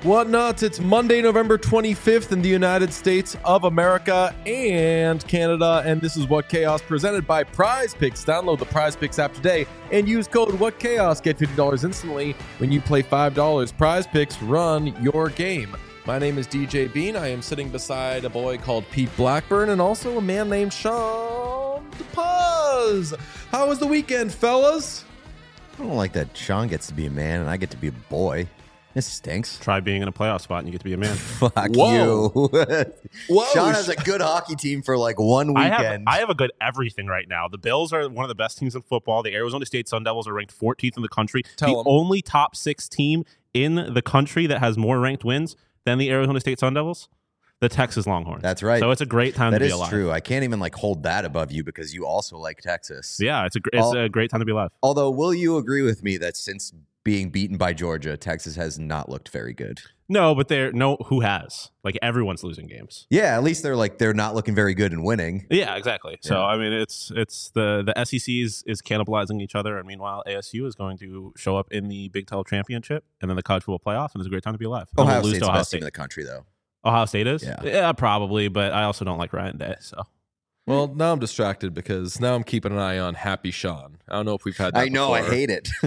What nuts? It's Monday, November 25th in the United States of America and Canada, and this is What Chaos presented by Prize Picks. Download the Prize Picks app today and use code What Chaos. Get $50 instantly when you play $5. Prize Picks, run your game. My name is DJ Bean. I am sitting beside a boy called Pete Blackburn and also a man named Sean DePaz. How was the weekend, fellas? I don't like that Sean gets to be a man and I get to be a boy. This stinks. Try being in a playoff spot and you get to be a man. Fuck Whoa. you. Whoa. Sean has a good hockey team for like one weekend. I have a good everything right now. The Bills are one of the best teams in football. The Arizona State Sun Devils are ranked 14th in the country. The only top 6 team in the country that has more ranked wins than the Arizona State Sun Devils, the Texas Longhorns. That's right. So it's a great time to be alive. That is true. I can't even like hold that above you because you also like Texas. Yeah, it's a great time to be alive. Although, will you agree with me that since being beaten by Georgia, Texas has not looked very good? No, but who has? Like, everyone's losing games. Yeah, at least they're not looking very good and winning. Yeah, exactly. Yeah. So I mean, it's the SEC is cannibalizing each other, and meanwhile ASU is going to show up in the Big 12 championship and then the college football playoff, and it's a great time to be alive. Ohio State's the best team in the country, though. Ohio State is? Yeah, probably, but I also don't like Ryan Day, so. Well, now I'm distracted because now I'm keeping an eye on Happy Sean. I don't know if we've had that I know, before. I hate it.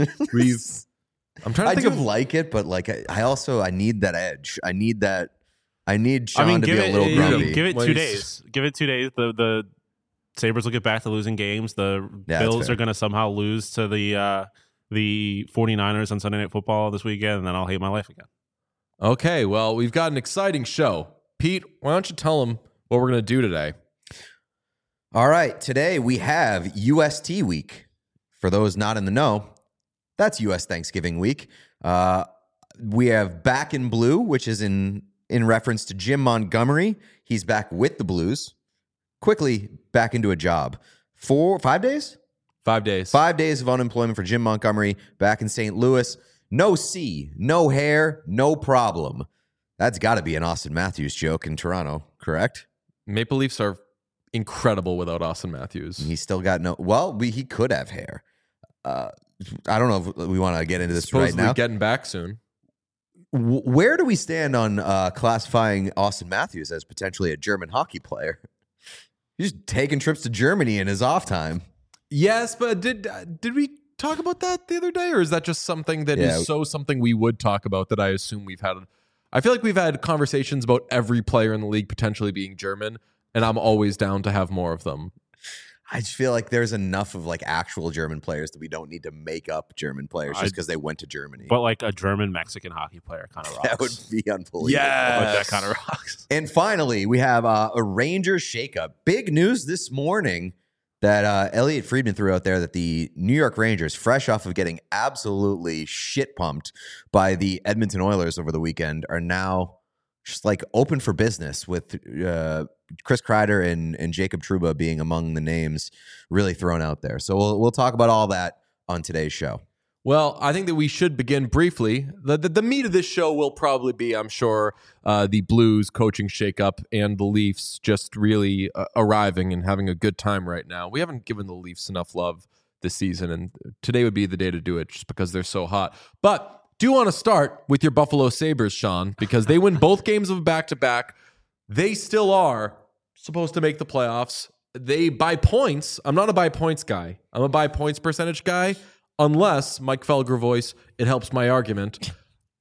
I'm trying to think of like it, but like I need that edge. I need Sean to be a little grumpy. Give it 2 days. Give it 2 days. The Sabres will get back to losing games. The Bills are going to somehow lose to the 49ers on Sunday Night Football this weekend, and then I'll hate my life again. Okay, well, we've got an exciting show. Pete, why don't you tell them what we're going to do today? All right, today we have UST week. For those not in the know, that's U.S. Thanksgiving week. We have Back in Blue, which is in reference to Jim Montgomery. He's back with the Blues. Quickly back into a job. 5 days? 5 days. 5 days of unemployment for Jim Montgomery back in St. Louis. No C, no hair, no problem. That's got to be an Austin Matthews joke in Toronto, correct? Maple Leafs are incredible without Austin Matthews. He's still got he could have hair. I don't know if we want to get into this Supposedly right now. Getting back soon. Where do we stand on classifying Austin Matthews as potentially a German hockey player? He's taking trips to Germany in his off time. Yes, but did we talk about that the other day, or is that just something that is something we would talk about that I assume we've had? I feel like we've had conversations about every player in the league potentially being German, and I'm always down to have more of them. I just feel like there's enough of like actual German players that we don't need to make up German players just because they went to Germany. But like a German-Mexican hockey player kind of rocks. That would be unbelievable. Yeah, like that kind of rocks. And finally, we have a Rangers shakeup. Big news this morning that Elliot Friedman threw out there that the New York Rangers, fresh off of getting absolutely shit pumped by the Edmonton Oilers over the weekend, are now just like open for business with Chris Kreider and Jacob Trouba being among the names really thrown out there. So we'll talk about all that on today's show. Well, I think that we should begin briefly. The meat of this show will probably be, I'm sure, the Blues coaching shakeup and the Leafs just really arriving and having a good time right now. We haven't given the Leafs enough love this season, and today would be the day to do it just because they're so hot. But do want to start with your Buffalo Sabres, Sean, because they win both games of back-to-back. They still are supposed to make the playoffs. They by points. I'm not a by points guy. I'm a by points percentage guy. Unless, Mike Felger voice, it helps my argument.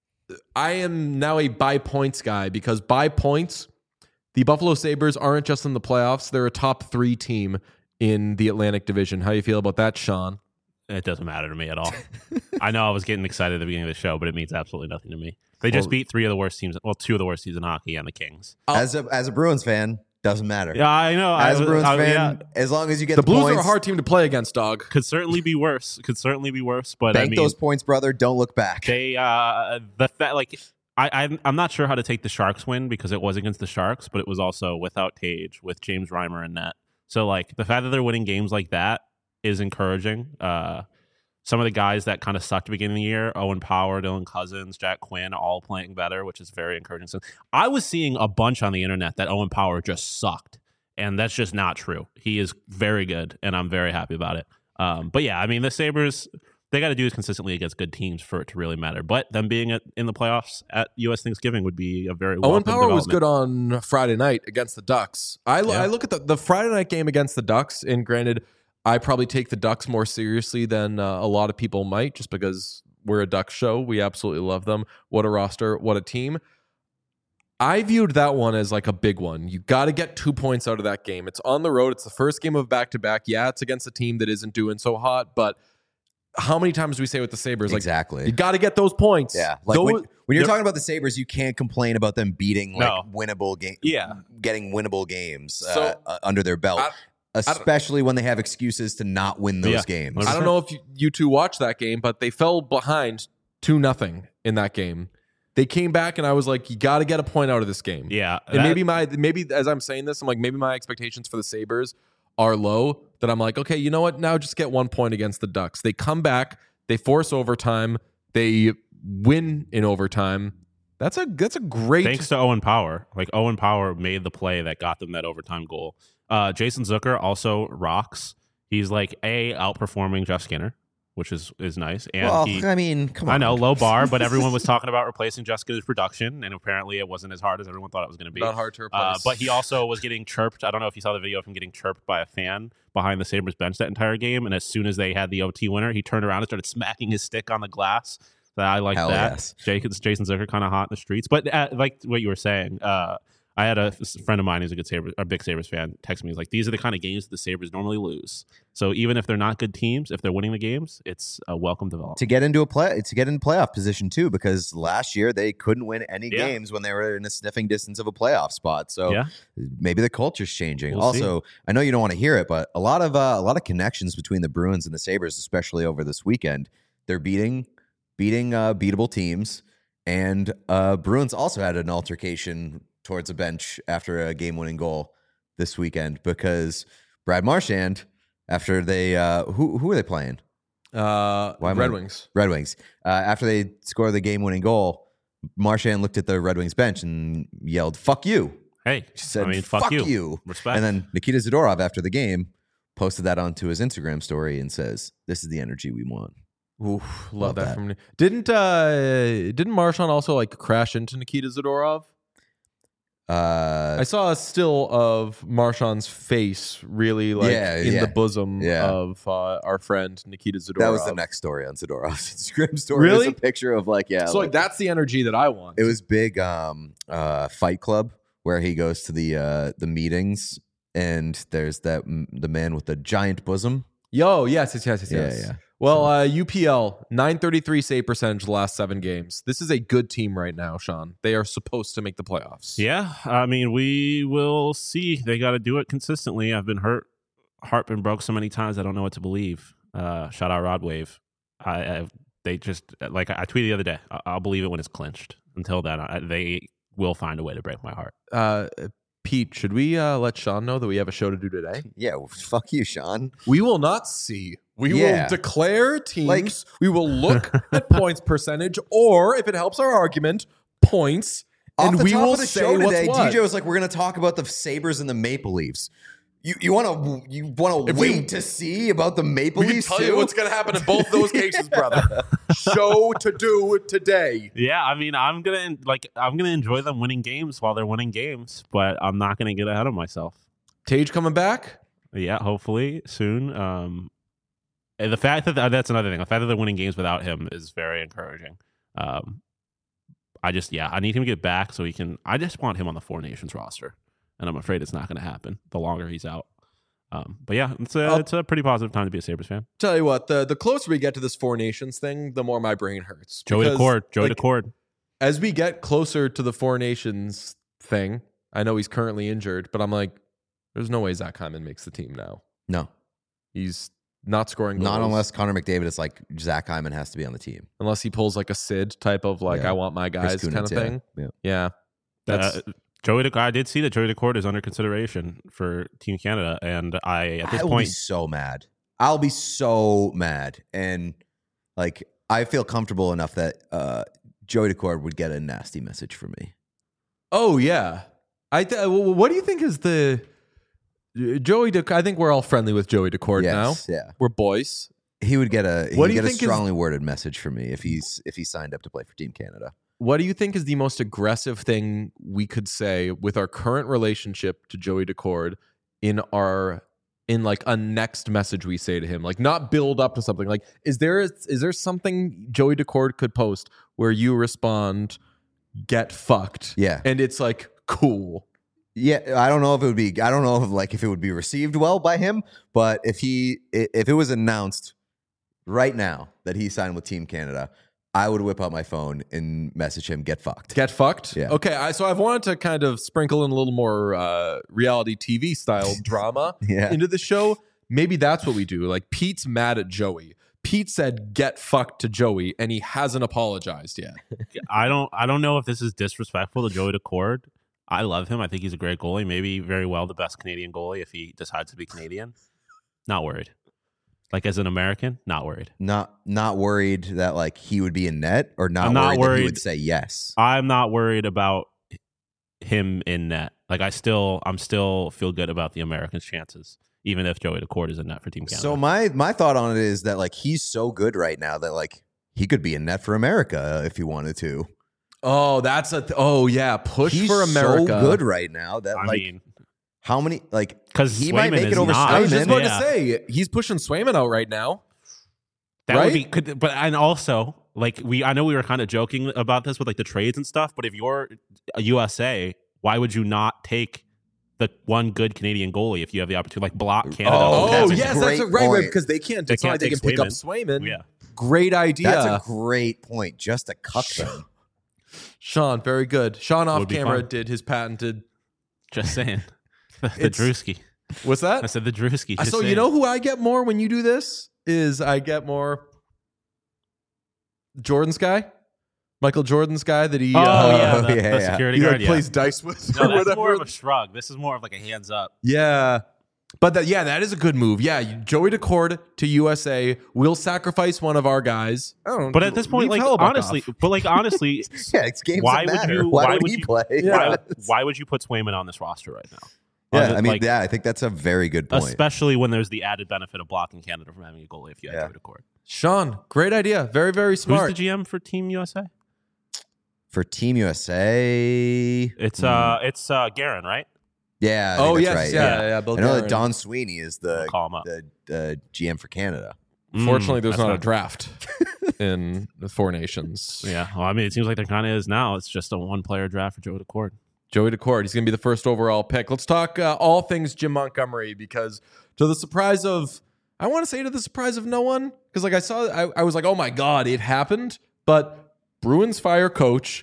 I am now a by points guy because by points, the Buffalo Sabres aren't just in the playoffs. They're a top 3 team in the Atlantic Division. How do you feel about that, Sean? It doesn't matter to me at all. I know I was getting excited at the beginning of the show, but it means absolutely nothing to me. They just beat 3 of the worst teams. Well, 2 of the worst teams in hockey and the Kings. As a Bruins fan, doesn't matter. Yeah, I know. As a Bruins fan, as long as you get the Blues points, are a hard team to play against, dog. Could certainly be worse. But bank those points, brother. Don't look back. They I'm not sure how to take the Sharks win because it was against the Sharks, but it was also without Tage, with James Reimer in net. So like the fact that they're winning games like that is encouraging. Some of the guys that kind of sucked at the beginning of the year, Owen Power, Dylan Cousins, Jack Quinn, all playing better, which is very encouraging. So I was seeing a bunch on the internet that Owen Power just sucked, and that's just not true. He is very good, and I'm very happy about it. But yeah, I mean, the Sabres, they got to do is consistently against good teams for it to really matter. But them being in the playoffs at U.S. Thanksgiving would be a very Owen welcome Power was development. good on Friday night against the Ducks. I look at the Friday night game against the Ducks, and granted, I probably take the Ducks more seriously than a lot of people might, just because we're a Ducks show. We absolutely love them. What a roster, what a team. I viewed that one as like a big one. You got to get 2 points out of that game. It's on the road. It's the first game of back-to-back. Yeah, it's against a team that isn't doing so hot, but how many times do we say with the Sabres? Exactly. Like, you got to get those points. Yeah. Like when you're talking about the Sabres, you can't complain about them beating winnable game. Yeah. Getting winnable games So, under their belt. Especially when they have excuses to not win those games. I don't know if you two watched that game, but they fell behind 2-0 in that game. They came back, and I was like, you got to get a point out of this game. Yeah. And maybe as I'm saying this, I'm like, maybe my expectations for the Sabres are low, that I'm like, okay, you know what? Now just get 1 point against the Ducks. They come back, they force overtime, they win in overtime. That's a great. Thanks to Owen Power. Like, Owen Power made the play that got them that overtime goal. Jason Zucker also rocks. He's like outperforming Jeff Skinner, which is nice. And I mean, come on. I know, low bar, but everyone was talking about replacing Jeff Skinner's production, and apparently it wasn't as hard as everyone thought it was going to be. Not hard to replace. But he also was getting chirped. I don't know if you saw the video of him getting chirped by a fan behind the Sabres bench that entire game. And as soon as they had the OT winner, he turned around and started smacking his stick on the glass. So I like that. Yes. Jason Zucker kind of hot in the streets. But like what you were saying, I had a friend of mine who's a big Sabres fan text me. He's like, these are the kind of games that the Sabres normally lose. So even if they're not good teams, if they're winning the games, it's a welcome development. To get into playoff position too, because last year they couldn't win any games when they were in a sniffing distance of a playoff spot. So maybe the culture's changing. We'll also, see. I know you don't want to hear it, but a lot of connections between the Bruins and the Sabres, especially over this weekend. They're beating beatable teams, and Bruins also had an altercation towards a bench after a game-winning goal this weekend because Brad Marchand, after they who are they playing? Red Wings. Red Wings. After they score the game-winning goal, Marchand looked at the Red Wings bench and yelled, "Fuck you!" Hey, She said, I mean, fuck you. Respect. And then Nikita Zadorov, after the game, posted that onto his Instagram story and says, "This is the energy we want." Ooh, love that from me. Didn't Marchand also like crash into Nikita Zadorov? I saw a still of Marchand's face really like in the bosom of our friend Nikita Zadorov. That was the next story on Zadorov's Instagram story. Really? It was a picture of So like that's the energy that I want. It was big Fight Club where he goes to the meetings and there's the man with the giant bosom. Yes. Yeah. Well, UPL 933 save percentage the last 7 games. This is a good team right now, Sean. They are supposed to make the playoffs. Yeah, I mean, we will see. They got to do it consistently. I've been hurt, heart been broke so many times. I don't know what to believe. Shout out Rod Wave. They just like I tweeted the other day. I'll believe it when it's clinched. Until then, they will find a way to break my heart. Pete, should we let Sean know that we have a show to do today? Yeah, fuck you, Sean. We will not see. We will declare teams. We will look at points percentage, or if it helps our argument, points. Off and the we top will of the say show what's today, what. DJ was like, "We're going to talk about the Sabres and the Maple Leafs." You want to wait to see about the Maple We can Leafs tell too? you what's going to happen in both those cases, brother. Show to do today. Yeah, I mean, I'm gonna enjoy them winning games while they're winning games, but I'm not gonna get ahead of myself. Tage coming back? Yeah, hopefully soon. And the fact that that's another thing. The fact that they're winning games without him is very encouraging. I need him to get back so he can. I just want him on the Four Nations roster, and I'm afraid it's not going to happen the longer he's out. But yeah, it's a pretty positive time to be a Sabres fan. Tell you what, the closer we get to this Four Nations thing, the more my brain hurts. Joey Daccord. As we get closer to the Four Nations thing, I know he's currently injured, but I'm like, there's no way Zach Hyman makes the team now. No. He's not scoring goals. Not unless Connor McDavid is like, Zach Hyman has to be on the team. Unless he pulls like a Sid type of like, I want my guys kind of thing. Yeah. I did see that Joey Daccord is under consideration for Team Canada, and at this point, be so mad. I'll be so mad, and like I feel comfortable enough that Joey Daccord would get a nasty message from me. Oh yeah, what do you think is the Joey Daccord? I think we're all friendly with Joey Daccord now. Yeah, we're boys. He would get a What do you a think strongly worded message from me if he signed up to play for Team Canada. What do you think is the most aggressive thing we could say with our current relationship to Joey Decord in like a next message we say to him? Like, not build up to something. Like, is there something Joey Decord could post where you respond, "Get fucked"? Yeah. And it's like, cool. Yeah, I don't know if it would be received well by him, but if it was announced right now that he signed with Team Canada, I would whip out my phone and message him, "Get fucked." Get fucked? Yeah. Okay, so I've wanted to kind of sprinkle in a little more reality TV style drama Yeah. into the show. Maybe that's what we do. Like, Pete's mad at Joey. Pete said, "Get fucked" to Joey, and he hasn't apologized yet. I don't know if this is disrespectful to Joey Decord. I love him. I think he's a great goalie. Maybe very well the best Canadian goalie if he decides to be Canadian. Not worried. Like, as an American, not worried. Not worried that like he would be in net, or I'm not that he worried. would say yes. I'm not worried about him in net. Like, I'm still feel good about the Americans' chances, even if Joey Decord is in net for Team Canada. So my thought on it is that like he's so good right now that like he could be in net for America if he wanted to. Oh, that's push He's for America. so good right now that I like mean, how many like because he might make it over I was just Swayman. about to say, he's pushing Swayman out right now. that right? would be. And also, like, I know we were kind of joking about this with like the trades and stuff, but if you're a USA, why would you not take the one good Canadian goalie if you have the opportunity, like block Canada? Oh, Oh, that's a yes, great that's right, point. because they can't. They It's not like can't they can take pick up Swayman. Yeah. Great idea. That's a great point. Just to cuck them. Sean, very good. Sean off Would be camera fun. did his patented. Just saying. The It's- Drewski. What's that? I said the Drewski. just So you saying. know who I get more when you do this is I get more Jordan's guy, Michael Jordan's guy that he. Oh, yeah, the yeah. security He guard. like Yeah. plays dice with No, or that's whatever. more of a shrug. This is more of like a hands up. Yeah. But that is a good move. Yeah, Joey Decord to USA. We'll sacrifice one of our guys. I don't know. But at this point, leave like Hellebuyck honestly, off. Yeah, it's games Why that would matter. you- Why why would would he you- play? Yeah. why would you put Swayman on this roster right now? Yeah, I mean, Like, I think that's a very good point. especially when there's the added benefit of blocking Canada from having a goalie if you have Yeah. Joey Decord. Sean, great idea. Very, very smart. Who's the GM for Team USA? For Team USA, It's Guerin, right? yeah. I think Oh that's yes, right. yeah. I Bill know that Guerin. Don Sweeney is We'll call him up. the GM for Canada. Fortunately, there's That's not a draft in the Four Nations. Yeah, well, I mean, it seems like there kind of is now. It's just a one-player draft for Joey Decord. Joey Decord, he's going to be the first overall pick. Let's talk all things Jim Montgomery, because to the surprise of no one, because like I was like, oh my God, it happened. But Bruins fire coach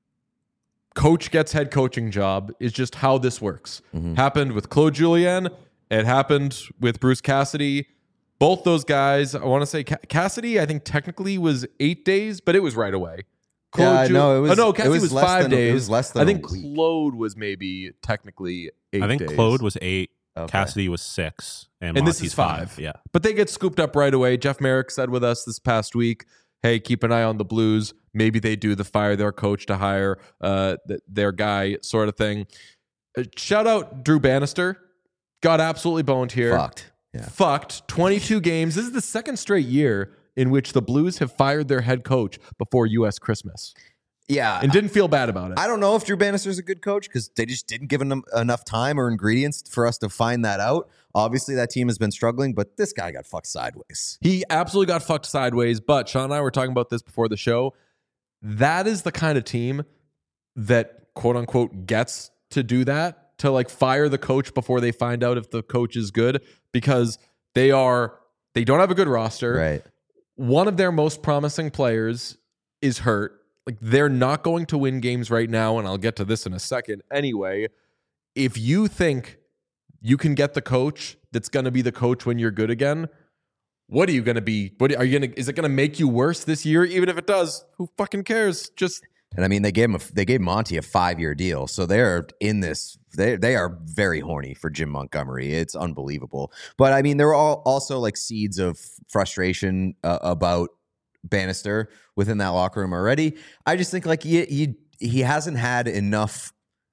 gets head coaching job is just how this works. Happened with Claude Julien. It happened with Bruce Cassidy. Both those guys, I want to say Cassidy, I think technically was 8 days, but it was right away. Yeah, no, it was. Cassidy was less 5 than, days. It was less than. I think a week. Claude was maybe technically 8 I think days. Claude was 8, Okay. Cassidy was 6, and And this Monty's is 5. Yeah. But they get scooped up right away. Jeff Merrick said with us this past week, hey, keep an eye on the Blues. Maybe they do the fire their coach to hire their guy sort of thing. Shout out Drew Bannister. Got absolutely boned here. Fucked. Yeah. Fucked. 22 games. This is the second straight year in which the Blues have fired their head coach before U.S. Christmas Yeah. and didn't feel bad about it. I don't know if Drew Bannister's a good coach because they just didn't give him enough time or ingredients for us to find that out. Obviously, that team has been struggling, but this guy got fucked sideways. He absolutely got fucked sideways, but Sean and I were talking about this before the show. That is the kind of team that, quote unquote, gets to do that, to like fire the coach before they find out if the coach is good, because they don't have a good roster. Right. One of their most promising players is hurt. Like, they're not going to win games right now, and I'll get to this in a second. Anyway, if you think you can get the coach that's going to be the coach when you're good again, what are you going to be? Is it going to make you worse this year? Even if it does, who fucking cares? Just And I mean, they gave Monty a 5-year deal, so they're in this. They are very horny for Jim Montgomery. It's unbelievable. But I mean, there are also like seeds of frustration about Bannister within that locker room already. I just think like he hasn't had enough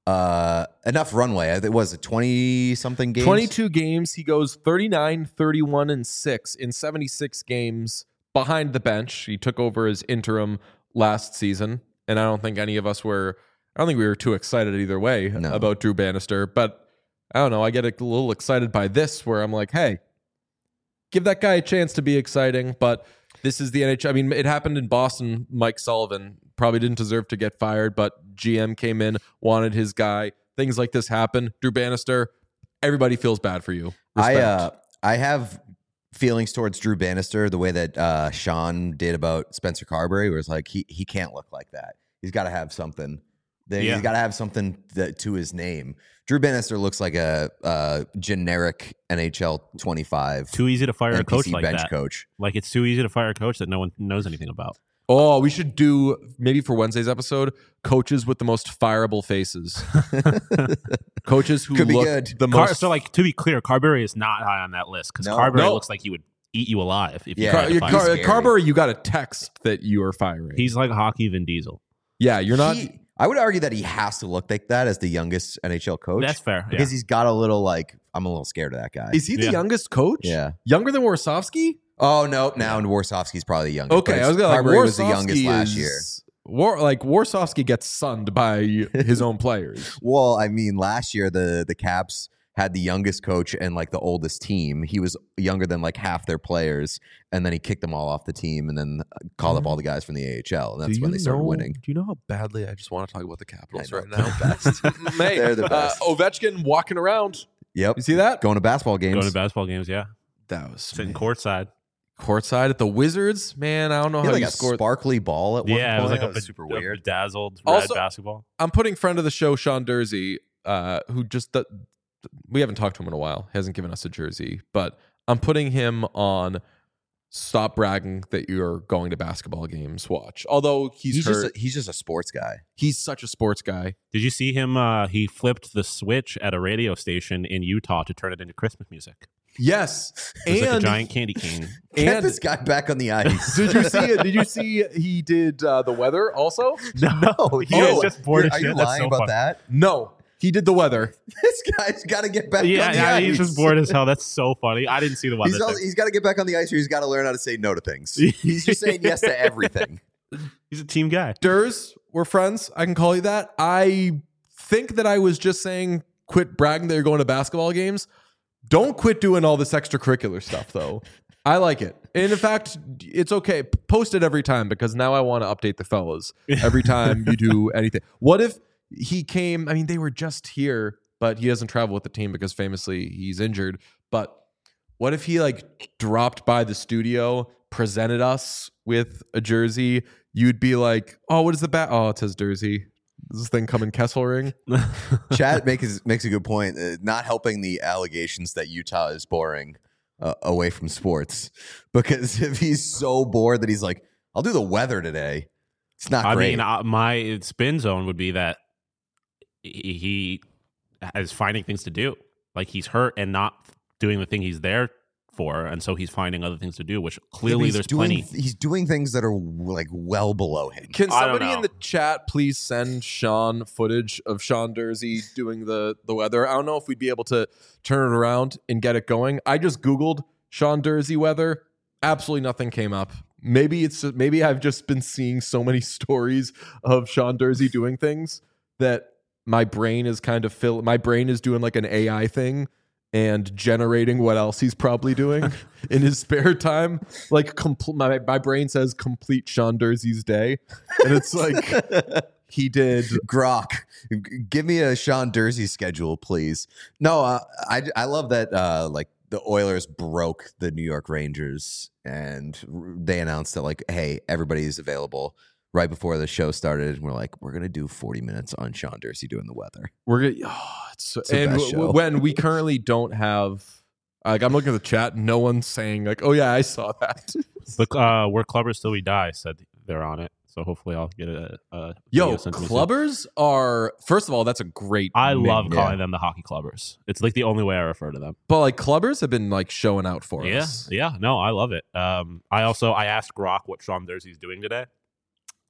enough runway. It was a 20-something games. 22 games. He goes 39, 31, and 6 in 76 games behind the bench. He took over as interim last season, and I don't think any of us were. I don't think we were too excited either way about Drew Bannister. But I don't know. I get a little excited by this, where I'm like, hey, give that guy a chance to be exciting. But this is the NHL. I mean, it happened in Boston. Mike Sullivan probably didn't deserve to get fired, but GM came in, wanted his guy. Things like this happen. Drew Bannister, everybody feels bad for you. Respect. I have feelings towards Drew Bannister the way that Sean did about Spencer Carberry, where it's like he can't look like that. He's got to have something. He's got to have something to his name. Drew Bannister looks like a generic NHL 25. Too easy to fire NPC a coach like bench that. Coach. Like it's too easy to fire a coach that no one knows anything about. Oh, we should do, maybe for Wednesday's episode, coaches with the most fireable faces. Coaches who Could be look good. the most. So, like, to be clear, Carberry is not high on that list because No. Carberry No. looks like he would eat you alive if you Yeah. tried to fire him. scary. Carberry, you got a text that you are firing. He's like hockey Vin Diesel. Yeah, you're not. I would argue that he has to look like that as the youngest NHL coach. That's fair. Yeah. Because he's got a little I'm a little scared of that guy. Is he the Yeah. youngest coach? Yeah. Younger than Warsofsky? Oh, no. Now Warsofsky's probably the youngest. Okay, but I was gonna Carberry like was the youngest Warsofsky last year. Warsofsky gets sunned by his own players. Well, I mean, last year the Caps had the youngest coach and like the oldest team. He was younger than like half their players, and then he kicked them all off the team, and then called up all the guys from the AHL, and that's when they started winning. Do you know how badly I just want to talk about the Capitals I know, right now? they're the best. Mate, They're the best. Ovechkin walking around. Yep, You see that? going to basketball games. Going to basketball games, yeah. That was Sitting courtside. courtside at the Wizards. Man, I don't know He how had you like a scored. sparkly ball at one Yeah, point. it was like That a super weird. bedazzled Also- red basketball. I'm putting friend of the show, Sean Dursey, who just we haven't talked to him in a while. He hasn't given us a jersey, but I'm putting him on stop bragging that you're going to basketball games. Watch. Although he's hurt, he's just a sports guy. he's such a sports guy. Did you see him? He flipped the switch at a radio station in Utah to turn it into Christmas music. Yes, It was like a and giant candy cane. Get and this guy back on the ice. did you see it? Did you see he did the weather also? No, He is just bored as Are you shit. That's lying so about funny. that? No, he did the weather. This guy's got to get back on the Yeah, ice. he's just bored as hell. That's so funny. I didn't see the weather. He's got to get back on the ice, or he's got to learn how to say no to things. He's just saying yes to everything. He's a team guy. Durs, we're friends. I can call you that. I think that I was just saying quit bragging that you're going to basketball games. Don't quit doing all this extracurricular stuff, though. I like it. And in fact, it's okay. Post it every time because now I want to update the fellas every time you do anything. What if he came? I mean, they were just here, but he doesn't travel with the team because famously he's injured. But what if he like dropped by the studio, presented us with a jersey? You'd be like, oh, what is the bat? Oh, it says Jersey. Does this thing come in Kesselring? Chad makes a good point. Not helping the allegations that Utah is boring away from sports. Because if he's so bored that he's like, I'll do the weather today, it's not great. I mean, my spin zone would be that he is finding things to do. Like he's hurt and not doing the thing he's there for, and so he's finding other things to do, which clearly there's plenty. He's doing things that are like well below him. Can I don't somebody in know. the chat please send Sean footage of Sean Dursey doing the weather? I don't know if we'd be able to turn it around and get it going. I just Googled Sean Dursey weather. Absolutely nothing came up. Maybe I've just been seeing so many stories of Sean Dursey doing things that my brain is kind of my brain is doing like an AI thing and generating what else he's probably doing in his spare time. Like my brain says complete Sean Dursey's day. And it's like he did. Grok, give me a Sean Dursey schedule, please. No, I love that like the Oilers broke the New York Rangers and they announced that like, hey, everybody's available right before the show started. And we're like, we're going to do 40 minutes on Sean Dursey doing the weather. We're gonna. It's the and best show. when we currently don't have. Like I'm looking at the chat, no one's saying like, "Oh yeah, I saw that." Look, we're Clubbers Till We Die said they're on it, so hopefully I'll get a video Yo, sent to me soon. clubbers are first of all, that's a great. I name. love calling them the hockey clubbers. It's like the only way I refer to them. but like clubbers have been like showing out for Yeah, us. yeah. No, I love it. I asked Grok what Sean Dursey's doing today,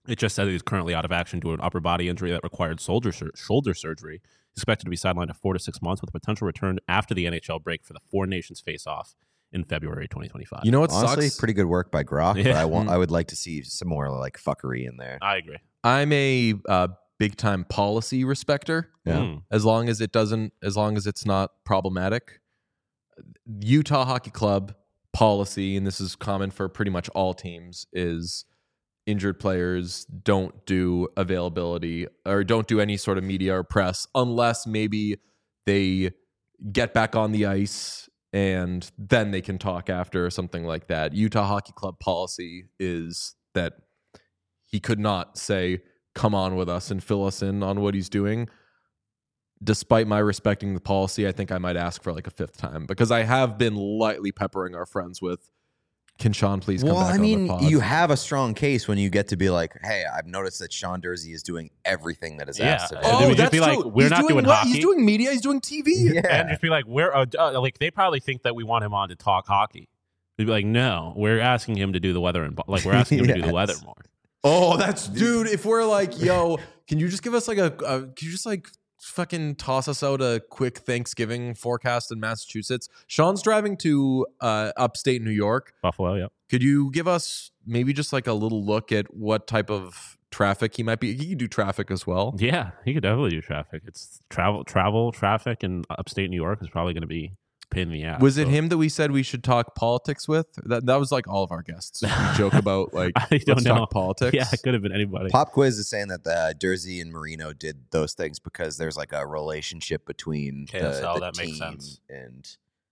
It just said he's currently out of action due to an upper body injury that required shoulder surgery. He's expected to be sidelined to 4 to 6 months with a potential return after the NHL break for the Four Nations face-off in February 2025. You know what Honestly, sucks? pretty good work by Grok, Yeah. but I would like to see some more like fuckery in there. I agree. I'm a big time policy respecter. Yeah. As long as it's not problematic. Utah Hockey Club policy, and this is common for pretty much all teams, is injured players don't do availability or don't do any sort of media or press unless maybe they get back on the ice and then they can talk after or something like that. Utah Hockey Club policy is that he could not say, come on with us and fill us in on what he's doing. Despite my respecting the policy, I think I might ask for like a fifth time because I have been lightly peppering our friends with, can Sean please come back on the pod? You have a strong case when you get to be like, hey, I've noticed that Sean Durzi is doing everything that is asked of him. Oh, Oh, would just that's be like, true. we're He's not doing what? hockey. He's doing media. He's doing TV. Yeah. And just be like, like they probably think that we want him on to talk hockey. They'd be like, no, we're asking him to do the weather we're asking him to do the weather more. Oh, that's dude. If we're like, yo, can you just give us like can you just like fucking toss us out a quick Thanksgiving forecast in Massachusetts? Sean's driving to upstate New York. Buffalo, yep. Could you give us maybe just like a little look at what type of traffic he might be? He could do traffic as well. Yeah, he could definitely do traffic. It's travel traffic in upstate New York is probably going to be a pain in the ass. Was it So- him that we said we should talk politics with? That was like all of our guests. We joke about like I don't let's know. talk politics. Yeah, it could have been anybody. Pop Quiz is saying that the Durzi and Marino did those things because there's like a relationship between KSL, the that team makes sense. and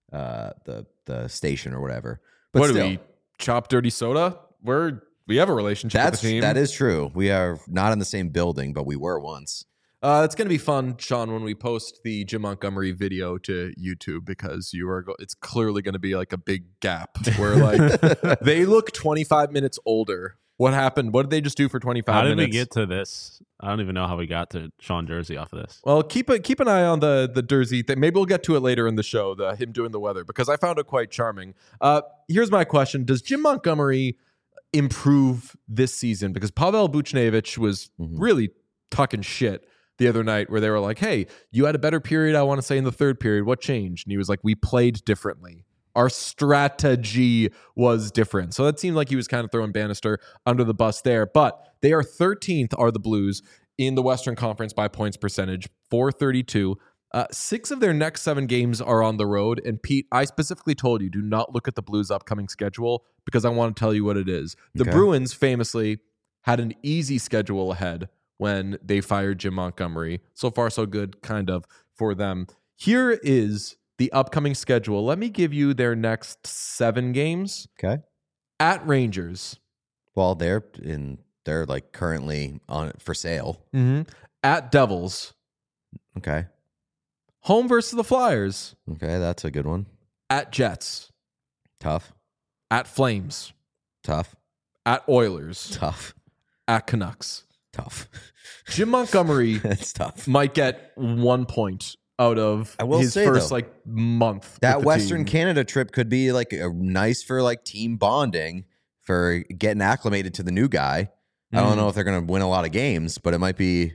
the station or whatever. But What still, do we chop dirty soda? We have a relationship with the team. that is true. We are not in the same building, but we were once. It's going to be fun, Sean, when we post the Jim Montgomery video to YouTube because it's clearly going to be like a big gap where like they look 25 minutes older. What happened? What did they just do for 25 How minutes? did we get to this? I don't even know how we got to Sean Durzi off of this. Well, keep an eye on the Durzi thing. Maybe we'll get to it later in the show, him doing the weather, because I found it quite charming. Here's my question. Does Jim Montgomery improve this season? Because Pavel Buchnevich was really talking shit the other night where they were like, hey, you had a better period, I want to say, in the third period. What changed? And he was like, we played differently. Our strategy was different. So that seemed like he was kind of throwing Bannister under the bus there. But they are 13th, are the Blues, in the Western Conference by points percentage, 432. 6 of their next 7 games are on the road. And Pete, I specifically told you, do not look at the Blues' upcoming schedule because I want to tell you what it is. The Bruins famously had an easy schedule ahead when they fired Jim Montgomery. So far, so good, kind of, for them. Here is the upcoming schedule. Let me give you their next 7 games. Okay. At Rangers. Well, they're like currently on for sale. At Devils. Okay. Home versus the Flyers. Okay, that's a good one. At Jets. Tough. At Flames. Tough. At Oilers. Tough. At Canucks. Tough. Jim Montgomery That's tough. might get 1 point out of I will his say, first though, month. That with the Western team. Canada trip could be like a nice for like team bonding for getting acclimated to the new guy. I don't know if they're going to win a lot of games, but it might be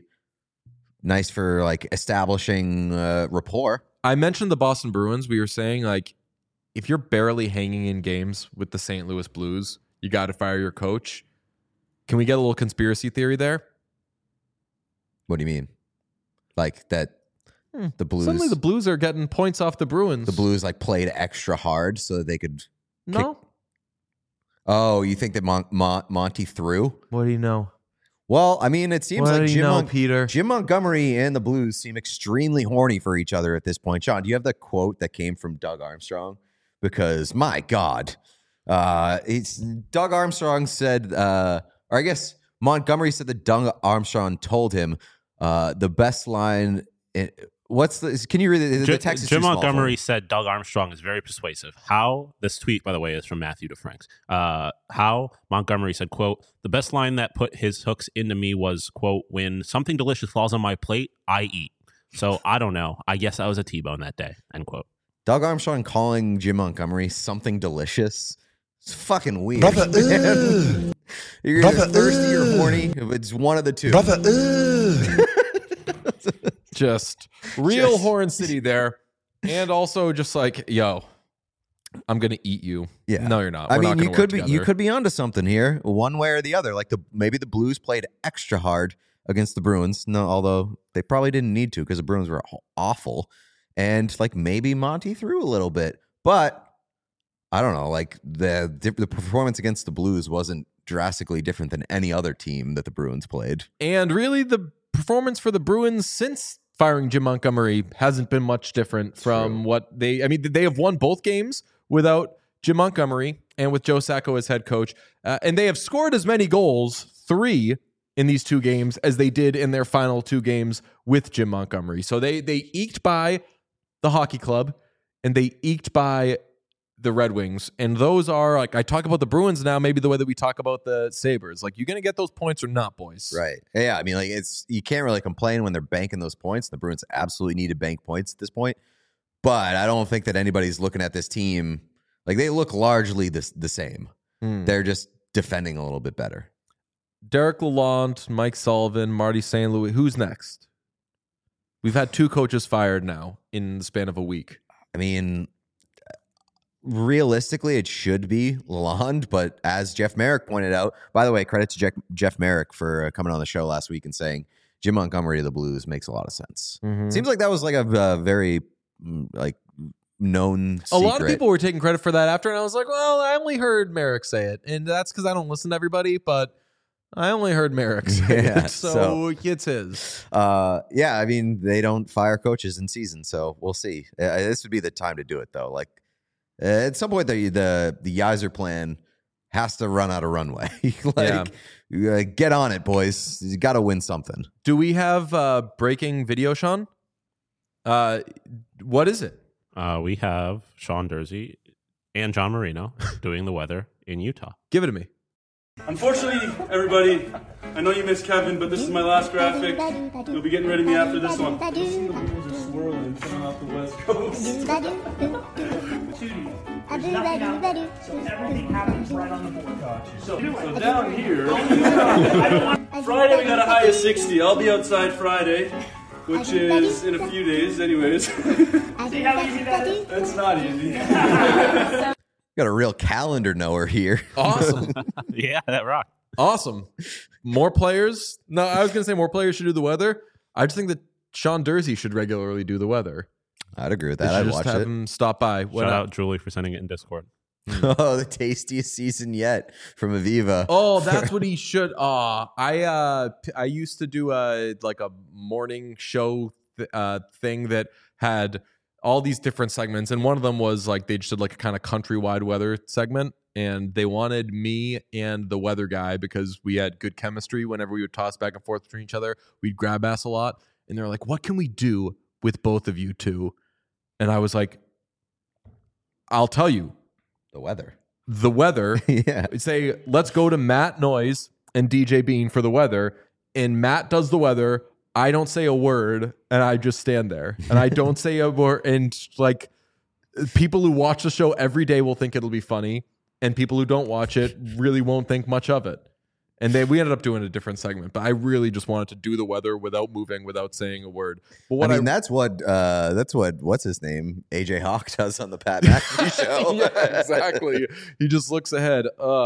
nice for like establishing rapport. I mentioned the Boston Bruins. We were saying like, if you're barely hanging in games with the St. Louis Blues, you got to fire your coach. Can we get a little conspiracy theory there? What do you mean? Like that the Blues Suddenly the Blues are getting points off the Bruins. the Blues like played extra hard so that they could No. Oh, you think that Monty threw? What do you know? Well, I mean, it seems What like do you know, Peter? Jim Montgomery and the Blues seem extremely horny for each other at this point. Sean, do you have the quote that came from Doug Armstrong? Because my God, it's Doug Armstrong said, or I guess Montgomery said that Doug Armstrong told him the best line. Can you read it? The text is Jim too small for Montgomery me. said Doug Armstrong is very persuasive. This tweet, by the way, is from Matthew DeFranks. How Montgomery said, quote, the best line that put his hooks into me was, quote, when something delicious falls on my plate, I eat. So I don't know. I guess I was a T-bone that day, end quote. Doug Armstrong calling Jim Montgomery something delicious. It's fucking weird. Man. You're either thirsty or horny. It's one of the two. Just real Horn City there. And also just like, yo, I'm gonna eat you. Yeah. No, you're not. I We're mean, not you gonna could work be you together. could be onto something here, one way or the other. Like maybe the Blues played extra hard against the Bruins. No, although they probably didn't need to because the Bruins were awful. And like maybe Monty threw a little bit, but I don't know. Like the performance against the Blues wasn't drastically different than any other team that the Bruins played. And really, the performance for the Bruins since firing Jim Montgomery hasn't been much different from what they. I mean, they have won both games without Jim Montgomery and with Joe Sacco as head coach, and they have scored as many goals, 3 in these 2 games, as they did in their final 2 games with Jim Montgomery. So they eked by the hockey club and they eked by the Red Wings. And those are, like, I talk about the Bruins now, maybe the way that we talk about the Sabres. Like, you going to get those points or not, boys? Right. Yeah. I mean, like you can't really complain when they're banking those points. The Bruins absolutely need to bank points at this point. But I don't think that anybody's looking at this team like they look largely the same. They're just defending a little bit better. Derek Lalonde, Mike Sullivan, Marty St. Louis. Who's next? We've had 2 coaches fired now in the span of a week. I mean, realistically, it should be Lalonde, but as Jeff Merrick pointed out, by the way, credit to Jeff Merrick for coming on the show last week and saying Jim Montgomery of the Blues makes a lot of sense. Seems like that was like a very like known secret. A lot of people were taking credit for that after, and I was like, well, I only heard Merrick say it, and that's because I don't listen to everybody, but I only heard Merrick say it, so it's his. Yeah, I mean, they don't fire coaches in season, so we'll see. This would be the time to do it, though. Like, at some point, the Yzer plan has to run out of runway. Get on it, boys. You got to win something. Do we have breaking video, Sean? What is it? We have Sean Dursey and John Marino doing the weather in Utah. Give it to me. Unfortunately, everybody, I know you miss Kevin, but this is my last graphic. You'll be getting rid of me after this one. Listen, the Blues are swirling coming off the West Coast. There's nothing out there, so everything happens right on the board. So down here, Friday we got a high of 60. I'll be outside Friday, which is in a few days anyways. See how easy that is? It's not easy. Got a real calendar knower here. Awesome. Yeah, that rocked. Awesome. More players? No, I was going to say more players should do the weather. I just think that Sean Dursey should regularly do the weather. I'd agree with They that. should I'd just watch have it. him stop by. Shout out Julie for sending it in Discord. Oh, the tastiest season yet from Aviva. Oh, that's what he should. I used to do a morning show thing that had all these different segments, and one of them was like they just did like a kind of countrywide weather segment, and they wanted me and the weather guy because we had good chemistry. Whenever we would toss back and forth between each other, we'd grab ass a lot, and they're like, "What can we do with both of you two?" And I was like, "I'll tell you." The weather. The weather. Yeah. Say, let's go to Matt Noyes and DJ Bean for the weather. And Matt does the weather. I don't say a word, and I just stand there. And I don't say a word. And like people who watch the show every day will think it'll be funny. And people who don't watch it really won't think much of it. And we ended up doing a different segment, but I really just wanted to do the weather without moving, without saying a word. But what that's what what's his name? AJ Hawk does on the Pat McAfee show. Yeah, exactly. He just looks ahead.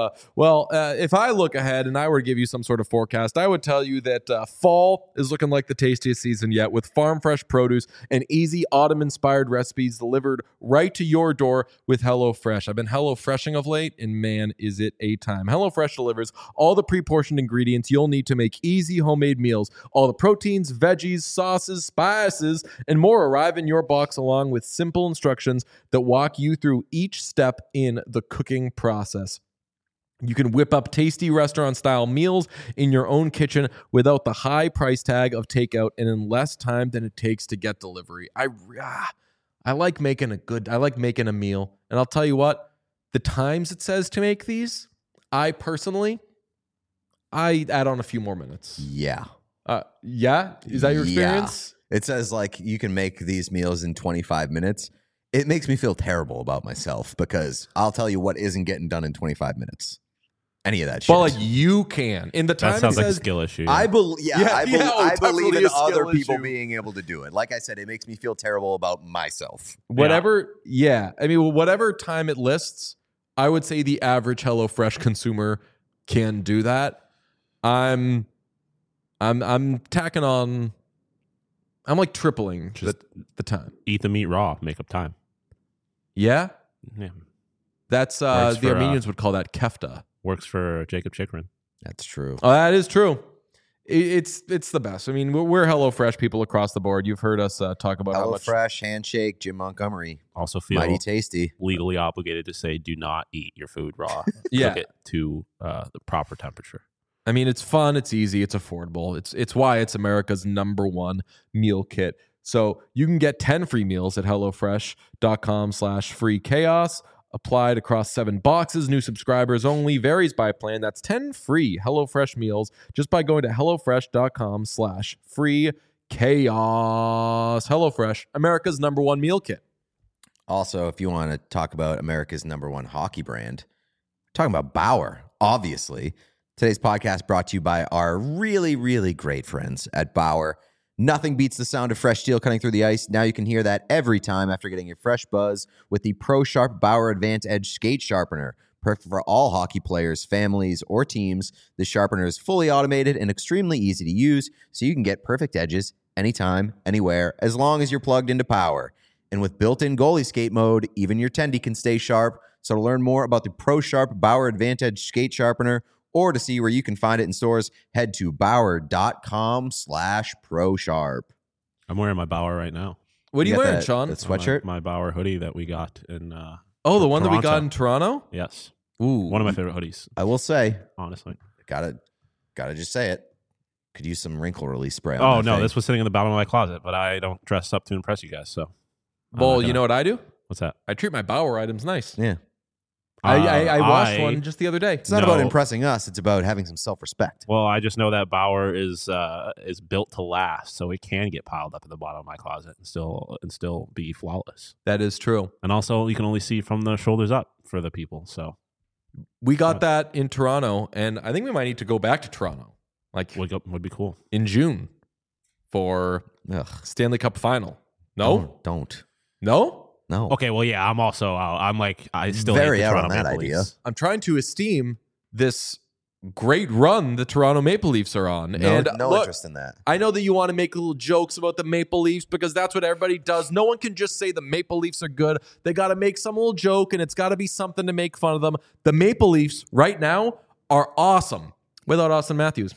If I look ahead and I were to give you some sort of forecast, I would tell you that fall is looking like the tastiest season yet, with farm fresh produce and easy autumn-inspired recipes delivered right to your door with HelloFresh. I've been HelloFreshing of late, and man, is it a time. HelloFresh delivers all the pre-portioned ingredients you'll need to make easy homemade meals. All the proteins, veggies, sauces, spices, and more arrive in your box along with simple instructions that walk you through each step in the cooking process. You can whip up tasty restaurant-style meals in your own kitchen without the high price tag of takeout and in less time than it takes to get delivery. I like making a meal. And I'll tell you what, the times it says to make these, I add on a few more minutes. Yeah. Yeah? Is that your experience? It says like you can make these meals in 25 minutes. It makes me feel terrible about myself because I'll tell you what isn't getting done in 25 minutes. Any of that shit. But like you can. In the time That sounds it like a says, skill issue. I believe definitely in a skill other people issue. being able to do it. Like I said, it makes me feel terrible about myself. whatever, I mean, whatever time it lists, I would say the average HelloFresh consumer can do that. I'm tacking on. I'm like tripling the time. Eat the meat raw, make up time. Yeah, Yeah. that's Works the for, Armenians would call that kefta. Works for Jacob Chikrin. That's true. Oh, that is true. It's the best. I mean, we're HelloFresh people across the board. You've heard us talk about how much. HelloFresh, Handshake, Jim Montgomery. Also feel Mighty tasty. legally obligated to say do not eat your food raw. Yeah. Cook it to the proper temperature. I mean, it's fun, it's easy, it's affordable. It's why it's America's #1 meal kit. So you can get 10 free meals at HelloFresh.com/free chaos. Applied across 7 boxes. New subscribers only. Varies by plan. That's 10 free HelloFresh meals just by going to HelloFresh.com/free chaos. HelloFresh, America's #1 meal kit. Also, if you want to talk about America's #1 hockey brand, talking about Bauer, obviously. Today's podcast brought to you by our really, really great friends at Bauer. Nothing beats the sound of fresh steel cutting through the ice. Now you can hear that every time after getting a fresh buzz with the Pro Sharp Bauer Advanced Edge Skate Sharpener. Perfect for all hockey players, families, or teams. The sharpener is fully automated and extremely easy to use, so you can get perfect edges anytime, anywhere, as long as you're plugged into power. And with built-in goalie skate mode, even your tendy can stay sharp. So to learn more about the Pro Sharp Bauer Advanced Edge Skate Sharpener, or to see where you can find it in stores, head to Bauer.com/ProSharp. I'm wearing my Bauer right now. What are you got wearing, that- Sean? that sweatshirt? My Bauer hoodie that we got in Oh, the one that we got Toronto. in Toronto? Yes. Ooh. One of my favorite hoodies, I will say, honestly. gotta just say it. Could use some wrinkle release spray. Oh, on that no, thing. this was sitting in the bottom of my closet, but I don't dress up to impress you guys, so. I'm Well, not you gonna- know what I do? What's that? I treat my Bauer items nice. Yeah. I washed I- one just the other day. It's not No. about impressing us. It's about having some self-respect. Well, I just know that Bauer is built to last, so it can get piled up at the bottom of my closet and still be flawless. That is true. And also, you can only see from the shoulders up for the people. So We got that in Toronto, and I think we might need to go back to Toronto, like would be cool. in June for Ugh. Stanley Cup final. No, Don't. no. No. Okay, well, yeah, I'm also I'm like I still Very hate the out Toronto on that Maple idea. Leafs. I'm trying to esteem this great run the Toronto Maple Leafs are on. No, and no look, interest in that. I know that you want to make little jokes about the Maple Leafs because that's what everybody does. No one can just say the Maple Leafs are good. They got to make some little joke, and it's got to be something to make fun of them. The Maple Leafs right now are awesome without Austin Matthews.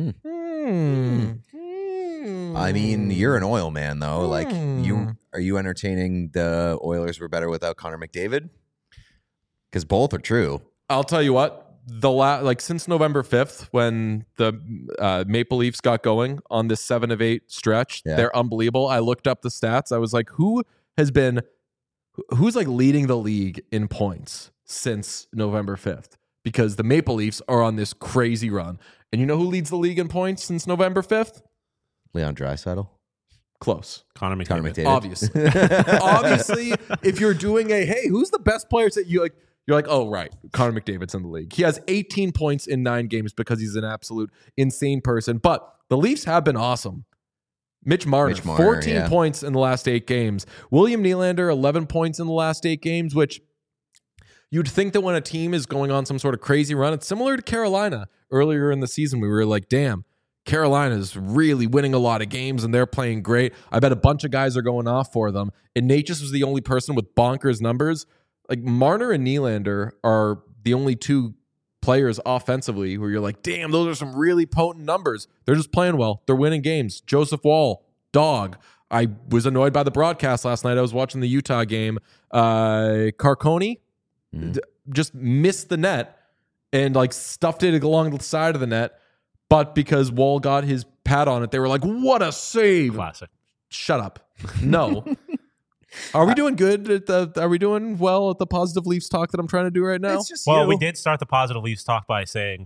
I mean, you're an oil man, though. Like, Hmm. are you entertaining the Oilers were better without Connor McDavid? Because both are true. I'll tell you what. Since November 5th, when the Maple Leafs got going on this 7 of 8 stretch, Yeah. they're unbelievable. I looked up the stats. I was like, who's like leading the league in points since November 5th? Because the Maple Leafs are on this crazy run. And you know who leads the league in points since November 5th? Leon Draisaitl. Close. Connor McDavid. Connor McDavid. Obviously. Obviously, if you're doing hey, who's the best players that you like? You're like, oh, right, Connor McDavid's in the league. He has 18 points in 9 games because he's an absolute insane person. But the Leafs have been awesome. Mitch Marner 14 yeah. points in the last 8 games. William Nylander, 11 points in the last 8 games, which you'd think that when a team is going on some sort of crazy run, it's similar to Carolina. Earlier in the season, we were like, damn, Carolina's really winning a lot of games and they're playing great. I bet a bunch of guys are going off for them. And Natchez was the only person with bonkers numbers. Like Marner and Nylander are the only 2 players offensively where you're like, damn, those are some really potent numbers. They're just playing well. They're winning games. Joseph Wall, dog. I was annoyed by the broadcast last night. I was watching the Utah game. Carconi just missed the net and like stuffed it along the side of the net. But because Wall got his pad on it, they were like, what a save. Classic. Shut up. No. Are we doing good? Are we doing well at the positive Leafs talk that I'm trying to do right now? It's just Well, you. we did start the positive Leafs talk by saying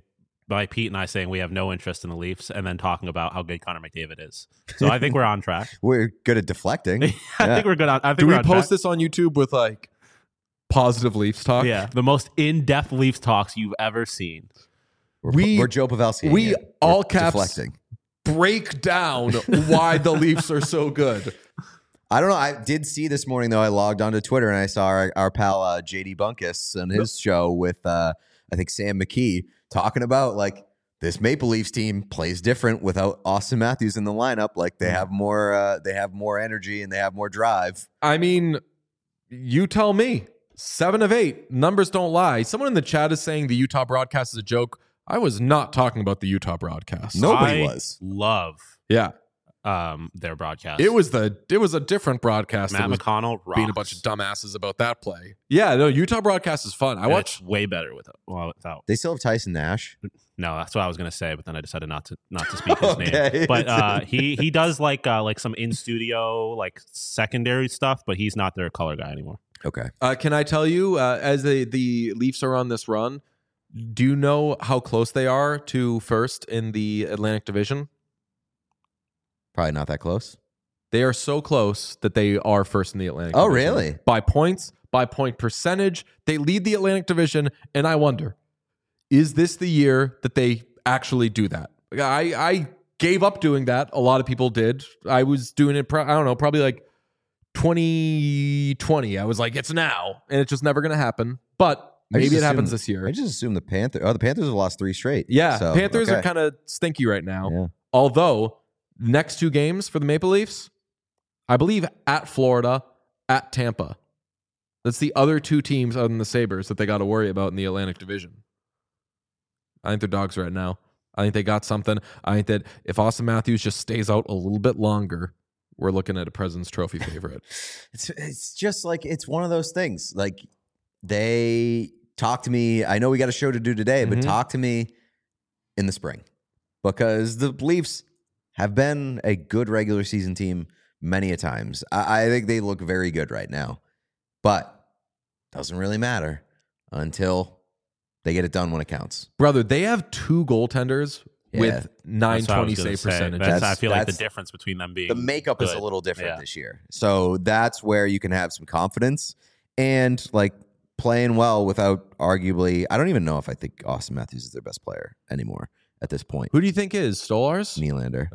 by Pete and I saying we have no interest in the Leafs, and then talking about how good Connor McDavid is. So I think we're on track. We're good at deflecting. I think we're good on. I think Do we're we on post track. this on YouTube with like positive Leafs talk? Yeah, the most in-depth Leafs talks you've ever seen. We're Joe Pavelski. We We're all caps deflecting. break down why the Leafs are so good. I don't know. I did see this morning though. I logged onto Twitter and I saw our pal JD Bunkus on his show with I think Sam McKee talking about like this Maple Leafs team plays different without Austin Matthews in the lineup. Like they have more energy and they have more drive. I mean, you tell me. 7 of 8. Numbers don't lie. Someone in the chat is saying the Utah broadcast is a joke. I was not talking about the Utah broadcast. Nobody I was. love Yeah. their broadcast. It was a different broadcast. Matt that was McConnell rocks. being a bunch of dumbasses about that play. Yeah, no, Utah broadcast is fun. I And watch. it's way better without. They still have Tyson Nash. No, that's what I was gonna say, but then I decided not to speak his Okay. name. But he does like some in studio like secondary stuff, but he's not their color guy anymore. Okay. Can I tell you, as the Leafs are on this run, do you know how close they are to first in the Atlantic Division? Probably not that close. They are so close that they are first in the Atlantic Oh, Division. really? By points, by point percentage. They lead the Atlantic Division, and I wonder, is this the year that they actually do that? I gave up doing that. A lot of people did. I was doing it, I don't know, probably like 2020. I was like, it's now, and it's just never going to happen. But maybe it happens this year. I just assume the Panthers have lost 3 straight. Yeah, So, Panthers okay. are kind of stinky right now. Yeah. Although, next 2 games for the Maple Leafs, I believe at Florida, at Tampa. That's the other 2 teams other than the Sabres that they got to worry about in the Atlantic Division. I think they're dogs right now. I think they got something. I think that if Austin Matthews just stays out a little bit longer, we're looking at a President's Trophy favorite. It's just like it's one of those things. Like they talk to me. I know we got a show to do today, but Mhm. talk to me in the spring because the Leafs have been a good regular season team many a times. I think they look very good right now, but doesn't really matter until they get it done when it counts. Brother, they have 2 goaltenders with That's what I 920 was gonna save say. percentage. I feel like the that's- difference between them being The makeup is a good. little different Yeah. this year. So that's where you can have some confidence and like playing well without arguably, I don't even know if I think Austin Matthews is their best player anymore at this point. Who do you think is? Stolars? Nylander.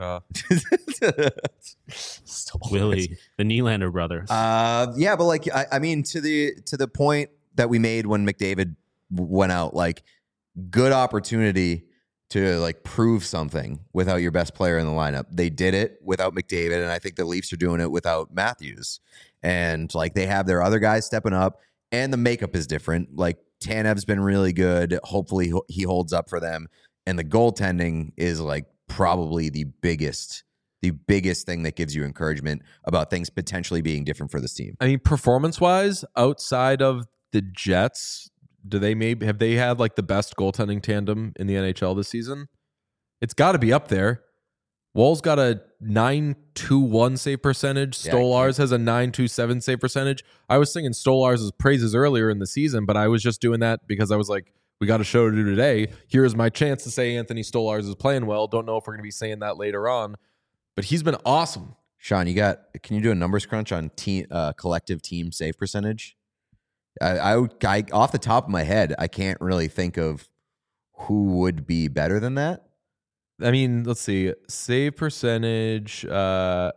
Willie, the Nylander brothers. Yeah, but like I mean to the point that we made when McDavid went out, like good opportunity to like prove something without your best player in the lineup. They did it without McDavid, and I think the Leafs are doing it without Matthews. And like they have their other guys stepping up, and the makeup is different. Like Tanev's been really good. Hopefully he holds up for them. And the goaltending is like probably the biggest thing that gives you encouragement about things potentially being different for this team. I mean, performance-wise, outside of the Jets, have they had like the best goaltending tandem in the NHL this season? It's got to be up there. Wall's got a 921 save percentage. Yeah, Stolars has a 927 save percentage. I was singing Stolars' praises earlier in the season, but I was just doing that because I was like, we got a show to do today. Here's my chance to say Anthony Stolars is playing well. Don't know if we're going to be saying that later on, but he's been awesome. Sean, can you do a numbers crunch on collective team save percentage? I off the top of my head, I can't really think of who would be better than that. I mean, let's see. Save percentage. Yeah,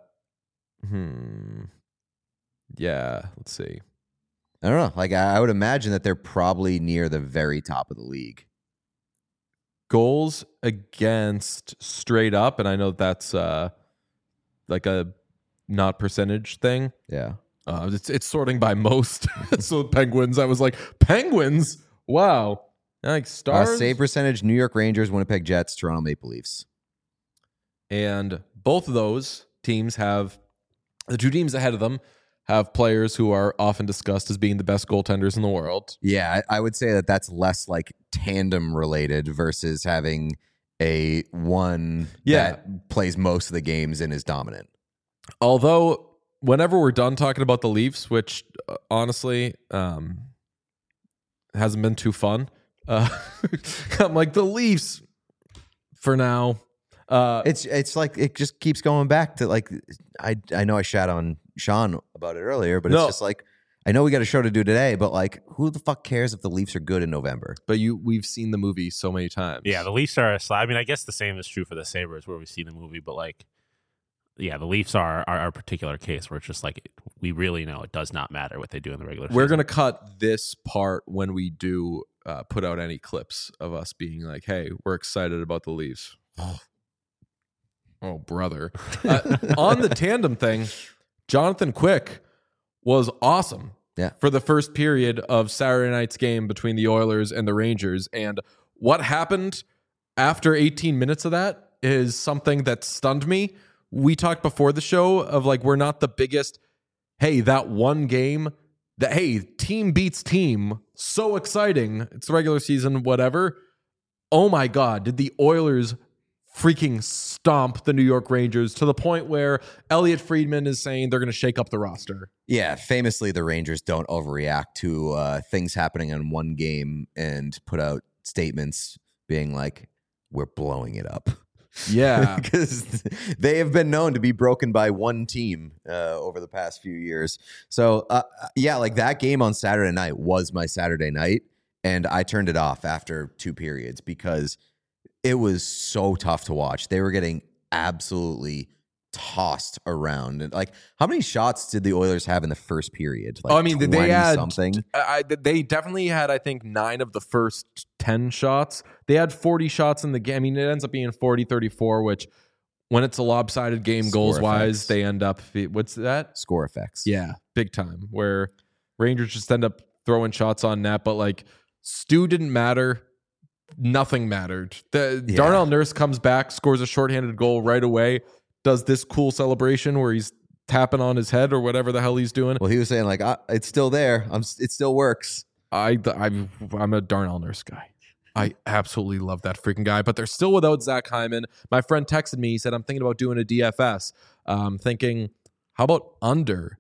let's see. I don't know. Like I would imagine that they're probably near the very top of the league. Goals against straight up, and I know that's like a not percentage thing. Yeah. It's sorting by most. So Penguins, I was like, Penguins? Wow. Like Stars. Save percentage, New York Rangers, Winnipeg Jets, Toronto Maple Leafs. And both of those teams have, the 2 teams ahead of them have players who are often discussed as being the best goaltenders in the world. Yeah, I would say that that's less like tandem related versus having a one that plays most of the games and is dominant. Although, whenever we're done talking about the Leafs, which honestly hasn't been too fun, I'm like, the Leafs, for now. It's like it just keeps going back to like I know I shat on Sean about it earlier, but it's just like I know we got a show to do today, but like who the fuck cares if the Leafs are good in November? But we've seen the movie so many times. Yeah, the Leafs are a slide. I mean, I guess the same is true for the Sabres where we see the movie, but like, yeah, the Leafs are a particular case where it's just like we really know it does not matter what they do in the regular season. We're gonna cut this part when we do put out any clips of us being like, "Hey, we're excited about the Leafs." Oh, brother! On the tandem thing, Jonathan Quick was awesome. Yeah. For the first period of Saturday night's game between the Oilers and the Rangers, and what happened after 18 minutes of that is something that stunned me. We talked before the show of like we're not the biggest. Hey, that one game. That hey, team beats team. So exciting. It's the regular season, whatever. Oh my God, did the Oilers freaking stomp the New York Rangers to the point where Elliot Friedman is saying they're going to shake up the roster. Yeah, famously, the Rangers don't overreact to things happening in one game and put out statements being like, we're blowing it up. Yeah. Because they have been known to be broken by one team over the past few years. So, yeah, like that game on Saturday night was my Saturday night, and I turned it off after 2 periods because it was so tough to watch. They were getting absolutely tossed around. And like, how many shots did the Oilers have in the first period? Like, I mean, they had something. They definitely had, I think, 9 of the first 10 shots. They had 40 shots in the game. I mean, it ends up being 40-34, which when it's a lopsided game goals wise, they end up. What's that? Score effects. Yeah, big time. Where Rangers just end up throwing shots on net, but like Stu didn't matter. Nothing mattered. Darnell Nurse comes back, scores a shorthanded goal right away, does this cool celebration where he's tapping on his head or whatever the hell he's doing. Well, he was saying like, it's still there. It still works. I'm a Darnell Nurse guy. I absolutely love that freaking guy, but they're still without Zach Hyman. My friend texted me. He said, I'm thinking about doing a DFS. Thinking, how about under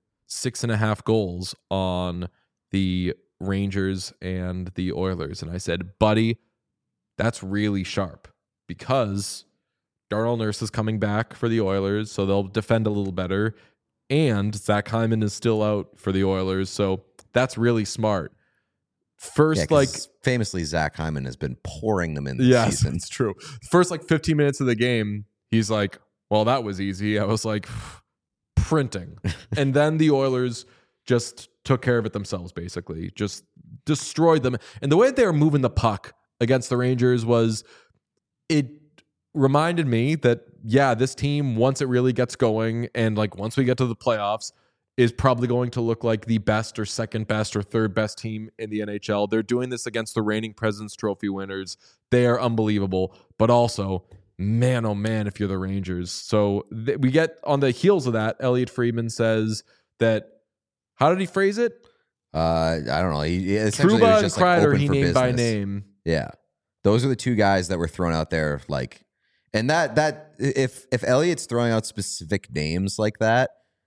6.5 goals on the Rangers and the Oilers? And I said, buddy, that's really sharp because Darnell Nurse is coming back for the Oilers, so they'll defend a little better. And Zach Hyman is still out for the Oilers, so that's really smart. First, famously, Zach Hyman has been pouring them in this season. It's true. First, 15 minutes of the game, he's like, well, that was easy. I was like, printing. And then the Oilers just took care of it themselves, basically. Just destroyed them. And the way they were moving the puck against the Rangers it reminded me that, yeah, this team, once it really gets going and like once we get to the playoffs, is probably going to look like the best or second best or third best team in the NHL. They're doing this against the reigning President's Trophy winners. They are unbelievable, but also, man, oh man, if you're the Rangers. So we get on the heels of that, Elliot Friedman says that, how did he phrase it? I don't know. Trouba and Kreider, he named by name. Yeah. Those are the 2 guys that were thrown out there. Like, and that if Elliott's throwing out specific names like that,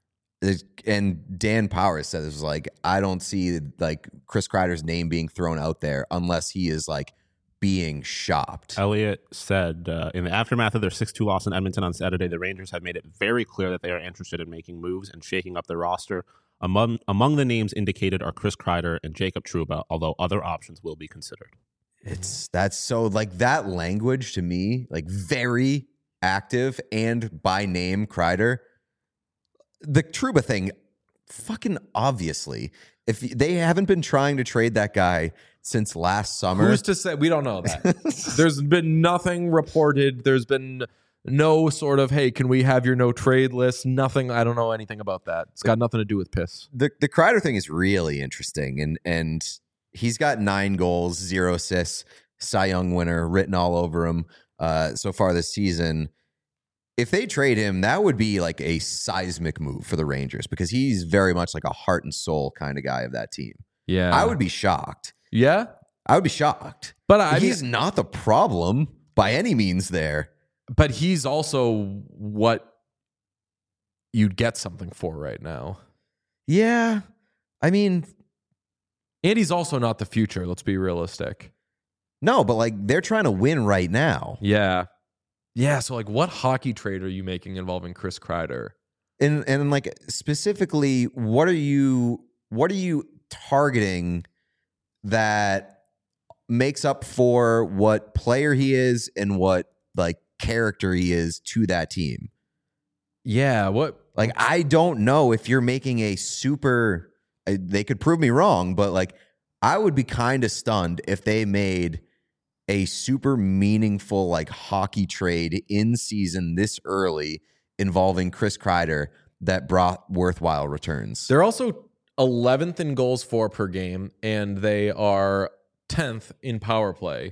and Dan Powers said this was like, I don't see like Chris Kreider's name being thrown out there unless he is like being shopped. Elliott said in the aftermath of their 6-2 loss in Edmonton on Saturday, the Rangers have made it very clear that they are interested in making moves and shaking up their roster. Among the names indicated are Chris Kreider and Jacob Trouba, although other options will be considered. That's so like that language to me, like very active and by name Kreider. The Trouba thing, fucking obviously, if they haven't been trying to trade that guy since last summer. Who's to say? We don't know that. There's been nothing reported. There's been no sort of, hey, can we have your no trade list? Nothing. I don't know anything about that. It's got nothing to do with piss. The Kreider thing is really interesting, and he's got 9 goals, 0 assists, Cy Young winner written all over him so far this season. If they trade him, that would be like a seismic move for the Rangers because he's very much like a heart and soul kind of guy of that team. Yeah. I would be shocked. Yeah? I would be shocked. But he's not the problem by any means there. But he's also what you'd get something for right now. Yeah. I mean, and he's also not the future. Let's be realistic. No, but like they're trying to win right now. Yeah. Yeah, so like what hockey trade are you making involving Chris Kreider? And like specifically, what are you targeting that makes up for what player he is and what like character he is to that team? Yeah, what? Like, I don't know if you're making a super, they could prove me wrong, but like, I would be kind of stunned if they made a super meaningful like hockey trade in season this early involving Chris Kreider that brought worthwhile returns. They're also 11th in goals for per game, and they are 10th in power play.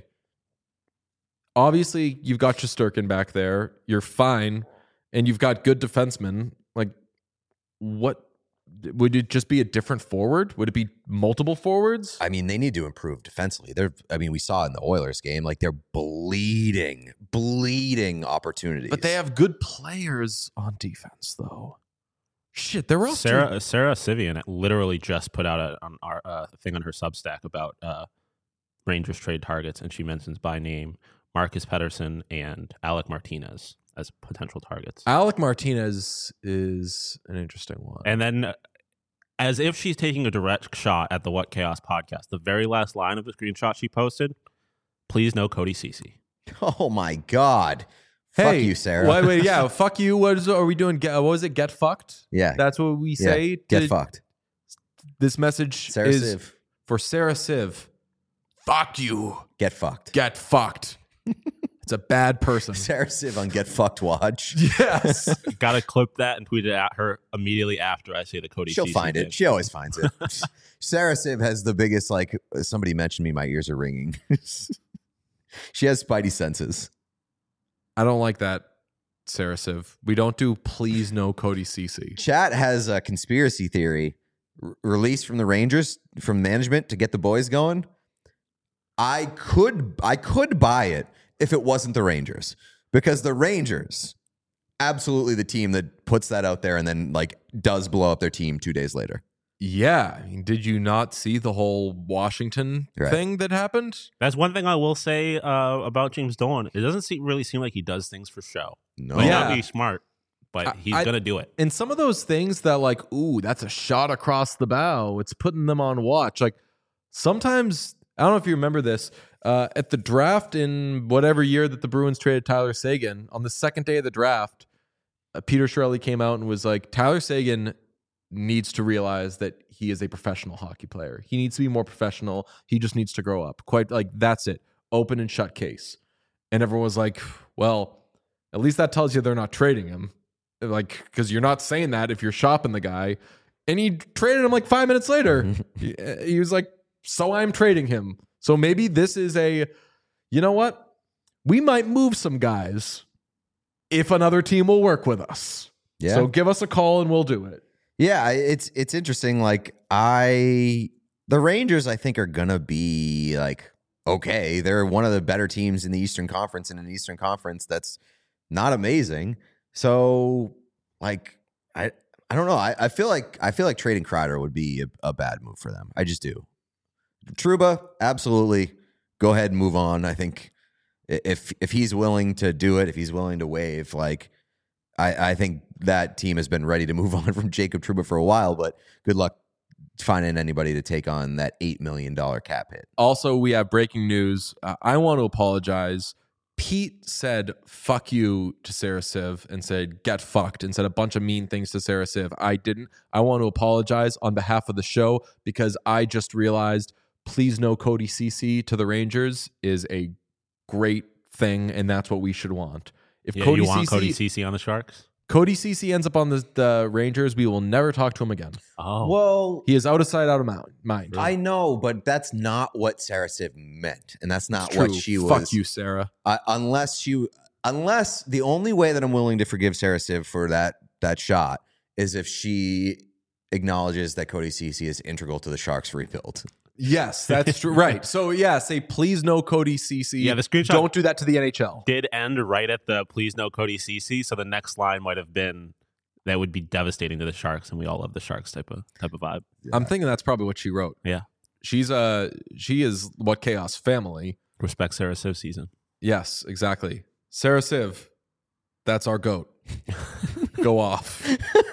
Obviously, you've got Shesterkin back there. You're fine. And you've got good defensemen. Like, what? Would it just be a different forward? Would it be multiple forwards? I mean, they need to improve defensively. We saw it in the Oilers game, like they're bleeding opportunities. But they have good players on defense, though. Shit, they're also Sarah Sivian literally just put out a thing on her Substack about Rangers trade targets, and she mentions by name Marcus Pettersson and Alec Martinez as potential targets. Alec Martinez is an interesting one. And then, as if she's taking a direct shot at the What Chaos podcast, the very last line of the screenshot she posted, please no Cody Ceci. Oh my God. Fuck you, Sarah. Wait, yeah, fuck you. What are we doing? What was it? Get fucked? Yeah. That's what we say? Get fucked. This message Sarah is Siv. for Sarah Siv. Fuck you. Get fucked. Get fucked. It's a bad person. Sarah Siv on Get Fucked Watch. Yes. Gotta clip that and tweet it at her immediately after I say the Cody She'll Ceci find thing. it. She always finds it. Sarah Siv has the biggest, like, somebody mentioned me, my ears are ringing. She has spidey senses. I don't like that, Sarah Siv. We don't do please no Cody Ceci. Chat has a conspiracy theory released from the Rangers, from management to get the boys going. I could buy it if it wasn't the Rangers, because the Rangers, absolutely the team that puts that out there and then like does blow up their team 2 days later. Yeah. I mean, did you not see the whole Washington thing that happened? That's one thing I will say about James Dolan. It doesn't really seem like he does things for show. No. Might Yeah. not be smart, but he's going to do it. And some of those things that like, ooh, that's a shot across the bow. It's putting them on watch. Like sometimes, I don't know if you remember this, at the draft in whatever year that the Bruins traded Tyler Seguin, on the second day of the draft, Peter Chiarelli came out and was like, Tyler Seguin needs to realize that he is a professional hockey player. He needs to be more professional. He just needs to grow up. Quite like, that's it. Open and shut case. And everyone was like, well, at least that tells you they're not trading him. Like, because you're not saying that if you're shopping the guy. And he traded him like 5 minutes later. He was like, so I'm trading him. So maybe this is you know what? We might move some guys if another team will work with us. Yeah. So give us a call and we'll do it. Yeah, it's interesting. Like the Rangers, I think, are gonna be like, okay, they're one of the better teams in the Eastern Conference, and in the Eastern Conference that's not amazing. So like I don't know. I feel like trading Kreider would be a bad move for them. I just do. Trouba, absolutely. Go ahead and move on. I think if he's willing to do it, if he's willing to waive, like I think that team has been ready to move on from Jacob Trouba for a while, but good luck finding anybody to take on that $8 million cap hit. Also, we have breaking news. I want to apologize. Pete said fuck you to Sarah Siv and said get fucked and said a bunch of mean things to Sarah Siv. I didn't. I want to apologize on behalf of the show because I just realized please no Cody Ceci to the Rangers is a great thing, and that's what we should want. If Yeah, you want Cody Ceci on the Sharks? Cody Ceci ends up on the Rangers, we will never talk to him again. Oh. Well, He is out of sight, out of mind. I know, but that's not what Sarah Siv meant, and that's not It's what true. she was. Fuck you, Sarah. Unless the only way that I'm willing to forgive Sarah Siv for that shot is if she acknowledges that Cody Ceci is integral to the Sharks' rebuild. Yes, that's true. Right. So yeah, say please no Cody Ceci. Yeah, the screenshot Don't do that to the NHL. did end right at the please no Cody Ceci, so the next line might have been that would be devastating to the Sharks, and we all love the Sharks type of vibe. I'm thinking that's probably what she wrote. Yeah. She is What Chaos family. Respect Sarah Siv season. Yes, exactly. Sarah Siv, That's our goat. Go off.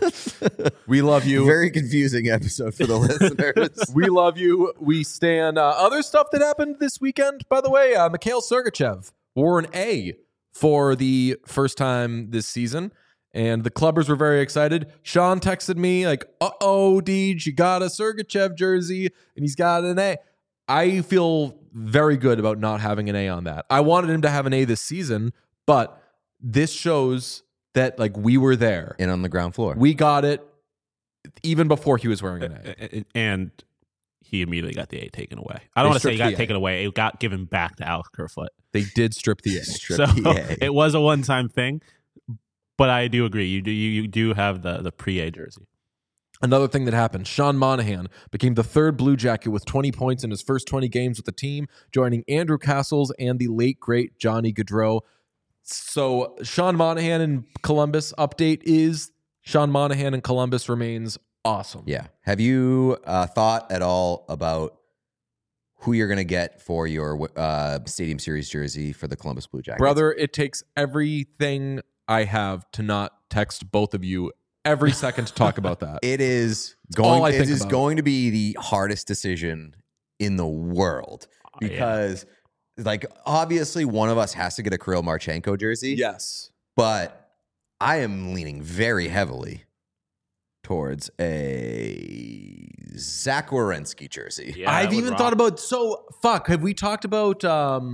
We love you. Very confusing episode for the listeners. We love you. We stand. Other stuff that happened this weekend, by the way, Mikhail Sergachev wore an A for the first time this season, and the clubbers were very excited. Sean texted me like, "Uh-oh, Deej, you got a Sergachev jersey, and he's got an A." I feel very good about not having an A on that. I wanted him to have an A this season, but this shows that like we were there. And on the ground floor. We got it even before he was wearing an A. And he immediately got the A taken away. I don't want to say he got taken away. It got given back to Alex Kerfoot. They did strip the A. Strip So the A. it was a one-time thing, but I do agree. You do have the pre-A jersey. Another thing that happened, Sean Monahan became the third Blue Jacket with 20 points in his first 20 games with the team, joining Andrew Castles and the late, great Johnny Gaudreau. So Sean Monahan in Columbus update is Sean Monahan in Columbus remains awesome. Yeah. Have you thought at all about who you're going to get for your Stadium Series jersey for the Columbus Blue Jackets? Brother, it takes everything I have to not text both of you every second to talk about that. It is all I going. It think is about. going to be the hardest decision in the world because, like, obviously, one of us has to get a Kirill Marchenko jersey. Yes. But I am leaning very heavily towards a Zach Werenski jersey. Yeah, I've even thought about have we talked about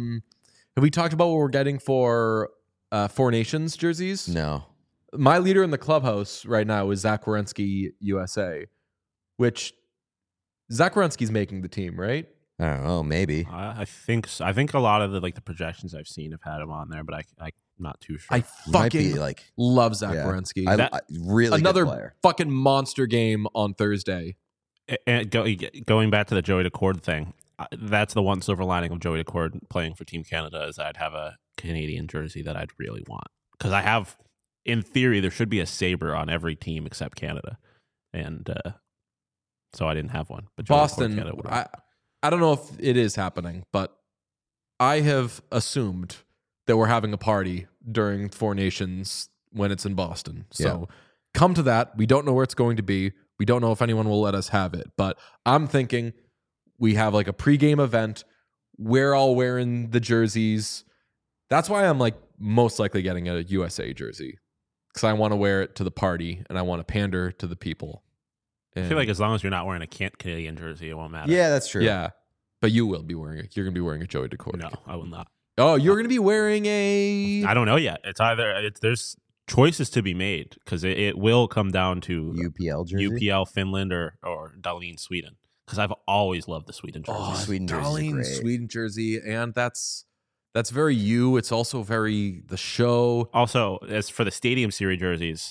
what we're getting for Four Nations jerseys? No. My leader in the clubhouse right now is Zach Werenski USA, which Zach Werenski's making the team, right? I don't know. Maybe. I think so. I think a lot of the projections I've seen have had him on there, but I'm not too sure. I Might be fucking like love Zach Werenski. I really Another good player. fucking monster game on Thursday. And going back to the Joey Decord thing, that's the one silver lining of Joey Decord playing for Team Canada is I'd have a Canadian jersey that I'd really want because I have. In theory, there should be a Sabre on every team except Canada, and so I didn't have one. But Joey Boston, Decord Canada would have. I don't know if it is happening, but I have assumed that we're having a party during Four Nations when it's in Boston. So come to that. We don't know where it's going to be. We don't know if anyone will let us have it, but I'm thinking we have like a pregame event. We're all wearing the jerseys. That's why I'm like most likely getting a USA jersey because I want to wear it to the party and I want to pander to the people. I feel like as long as you're not wearing a Canadian jersey, it won't matter. Yeah, that's true. Yeah, but you will be wearing it. You're going to be wearing a Joey Decord. No, I will not. Oh, you're going to be wearing a... I don't know yet. It's either there's choices to be made because it will come down to UPL jersey. UPL Finland or Dahlin Sweden because I've always loved the Sweden jersey. Oh, Sweden jersey is Darlene great. Sweden jersey, and that's very you. It's also very the show. Also, as for the Stadium Series jerseys,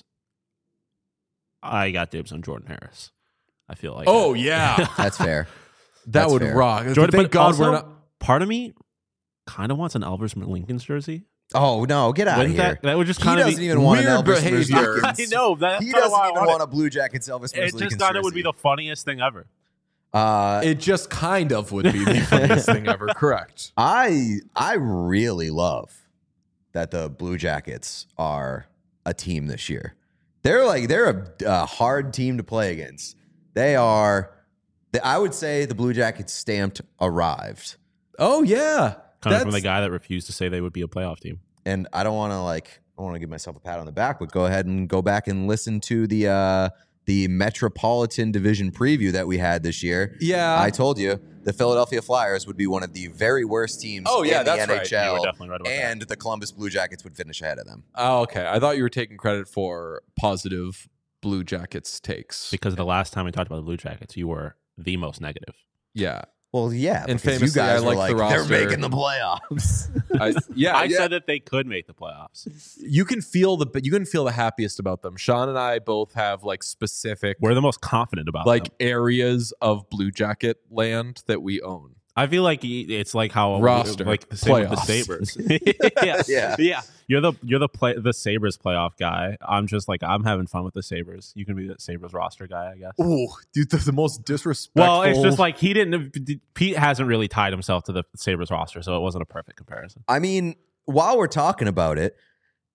I got dibs on Jordan Harris. I feel like Oh yeah, That's fair. that That's would fair. rock. Jordan, Thank but God also, we're not. part of me kind of wants an Elvis Lincoln's jersey. Oh no, get out of Wouldn't here. that would just He kind of doesn't be even want an weird Elvis behavior. I know that's He kinda doesn't why I even want want a Blue Jackets Elvis it. It Lincoln just thought it would be jersey. the funniest thing ever. It just kind of would be the funniest thing ever. Correct. I really love that the Blue Jackets are a team this year. They're a hard team to play against. They are. I would say the Blue Jackets stamped arrived. Oh yeah, Coming from the guy that refused to say they would be a playoff team. And I don't want to give myself a pat on the back, but go ahead and go back and listen to the Metropolitan Division preview that we had this year. Yeah. I told you the Philadelphia Flyers would be one of the very worst teams Oh, yeah, in the that's right. NHL. You were definitely right about that. And the Columbus Blue Jackets would finish ahead of them. Oh, okay. I thought you were taking credit for positive Blue Jackets takes. Because the last time we talked about the Blue Jackets, you were the most negative. Yeah. Well, yeah, And because you famously, guys I were like the like, they're roster. making the playoffs. I said that they could make the playoffs. You can feel the happiest about them. Sean and I both have like specific We're the most confident about like them. areas of Blue Jacket land that we own. I feel like it's like how Roster, like the same with the playoffs. Sabres. Yeah. You're the Sabres playoff guy. I'm just like I'm having fun with the Sabres. You can be the Sabres roster guy, I guess. Oh, dude, the most disrespectful. Well, it's just like Pete hasn't really tied himself to the Sabres roster, so it wasn't a perfect comparison. I mean, while we're talking about it,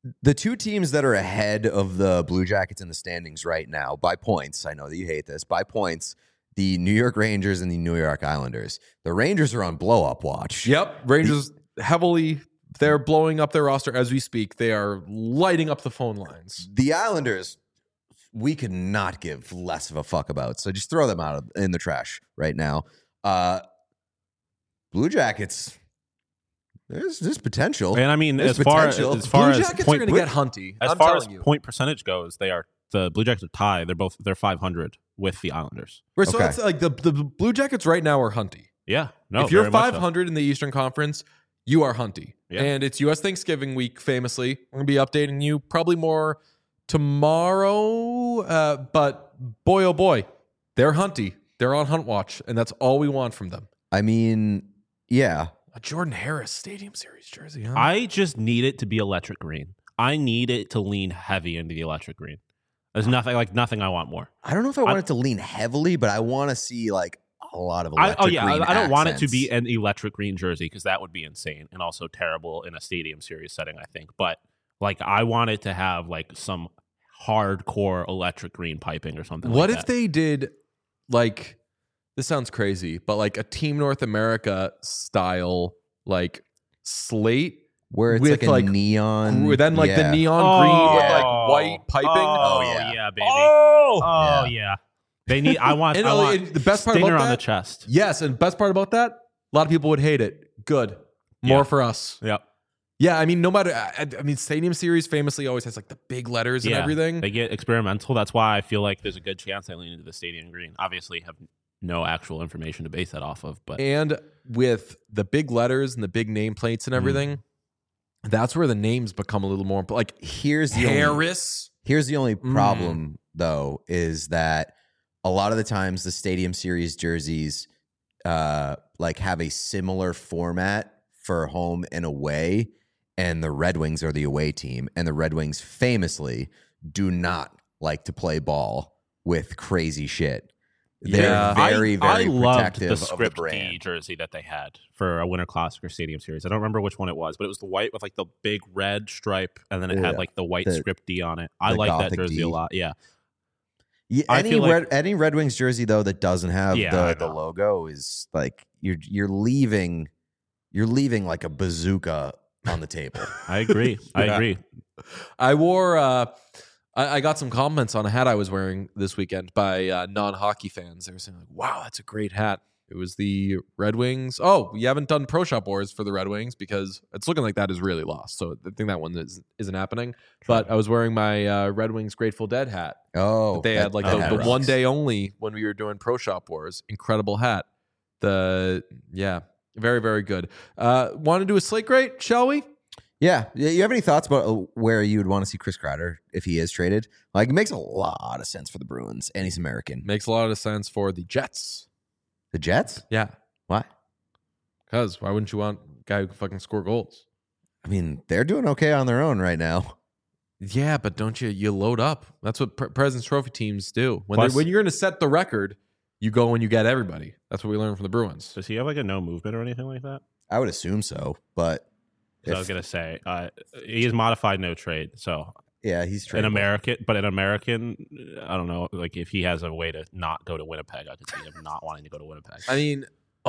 The two teams that are ahead of the Blue Jackets in the standings right now by points, I know that you hate this, by points, the New York Rangers and the New York Islanders. The Rangers are on blow-up watch. Yep. Rangers heavily, they're blowing up their roster as we speak. They are lighting up the phone lines. The Islanders, we could not give less of a fuck about. So just throw them out in the trash right now. Blue Jackets, there's potential. And I mean, There's as far potential. as Blue Jackets are going to get hunty. as I'm far as telling you. point percentage goes, the Blue Jackets are tied. They're 500 with the Islanders. Right, so Okay. it's like the Blue Jackets right now are hunty. Yeah, no. if you're very much so. 500 in the Eastern Conference, you are hunty. Yeah. And it's U.S. Thanksgiving week, famously. I'm going to be updating you probably more tomorrow. But boy, oh boy, they're hunty. They're on hunt watch, and that's all we want from them. I mean, yeah. A Jordan Harris Stadium Series jersey, huh? I just need it to be electric green. I need it to lean heavy into the electric green. There's nothing I want more. I don't know if I want it to lean heavily, but I want to see like a lot of electric green I don't want it to accents. be an electric green jersey because that would be insane and also terrible in a stadium series setting, I think. But like, I want it to have like some hardcore electric green piping or something. What like if that. they did, like, this sounds crazy, but like a Team North America style, like slate where it's with, like a like, neon, then like the yeah. neon green with yeah. like white piping. Oh, yeah. yeah, baby. Oh, Yeah. They need. I want. And, I want and the best part stinger about on that, the chest. yes, and best part about that, a lot of people would hate it. Good, more Yeah. for us. Yep. Yeah, I mean, no matter. I mean, Stadium Series famously always has like the big letters and everything. They get experimental. That's why I feel like there's a good chance they lean into the stadium green. Obviously, have no actual information to base that off of, but And with the big letters and the big nameplates and everything, that's where the names become a little more like Here's the only, Harris. here's the only problem though, is that a lot of the times the Stadium Series jerseys like have a similar format for home and away, and the Red Wings are the away team, and the Red Wings famously do not like to play ball with crazy shit. They're Yeah. very, very I loved protective the of the Script D brand. jersey that they had for a Winter Classic or Stadium Series. I don't remember which one it was, but it was the white with like the big red stripe, and then it Yeah. had like the white The- Script D on it. I the like that Gothic jersey D. a lot. Yeah, Yeah, I feel like- any Red Wings jersey though that doesn't have Yeah, I the know. logo is like you're leaving like a bazooka on the table. I agree. I Yeah. agree. I wore. I got some compliments on a hat I was wearing this weekend by non-hockey fans. They were saying like, "Wow, that's a great hat." It was the Red Wings. Oh, you haven't done Pro Shop Wars for the Red Wings because it's looking like that is really lost. So I think that one isn't happening. But I was wearing my Red Wings Grateful Dead hat. Oh, They had like that the rocks. one day only when we were doing Pro Shop Wars. Incredible hat. Very, very good. Want to do a slate grade, shall we? Yeah, you have any thoughts about where you would want to see Chris Kreider if he is traded? Like, it makes a lot of sense for the Bruins, and he's American. Makes a lot of sense for the Jets. The Jets? Yeah. Why? Because why wouldn't you want a guy who can fucking score goals? I mean, they're doing okay on their own right now. Yeah, but don't you load up? That's what President's Trophy teams do. When Plus- when you're going to set the record, you go and you get everybody. That's what we learned from the Bruins. Does he have like a no movement or anything like that? I would assume so, but So I was gonna say he is modified no trade. So yeah, he's an tradable. American, I don't know. Like if he has a way to not go to Winnipeg, I could see him not wanting to go to Winnipeg. I mean,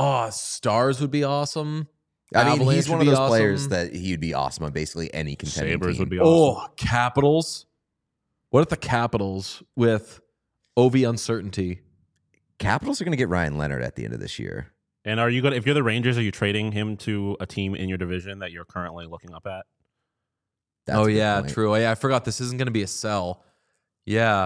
Stars would be awesome. I mean, Avalanche he's one would of be those players awesome. that he'd be awesome on basically any contending Sabres team. would be awesome. Oh, Capitals. What if the Capitals with Ovi uncertainty? Capitals are going to get Ryan Leonard at the end of this year. And are you gonna? If you're the Rangers, are you trading him to a team in your division that you're currently looking up at? That's Oh a good yeah, point. true. I forgot this isn't going to be a sell. Yeah.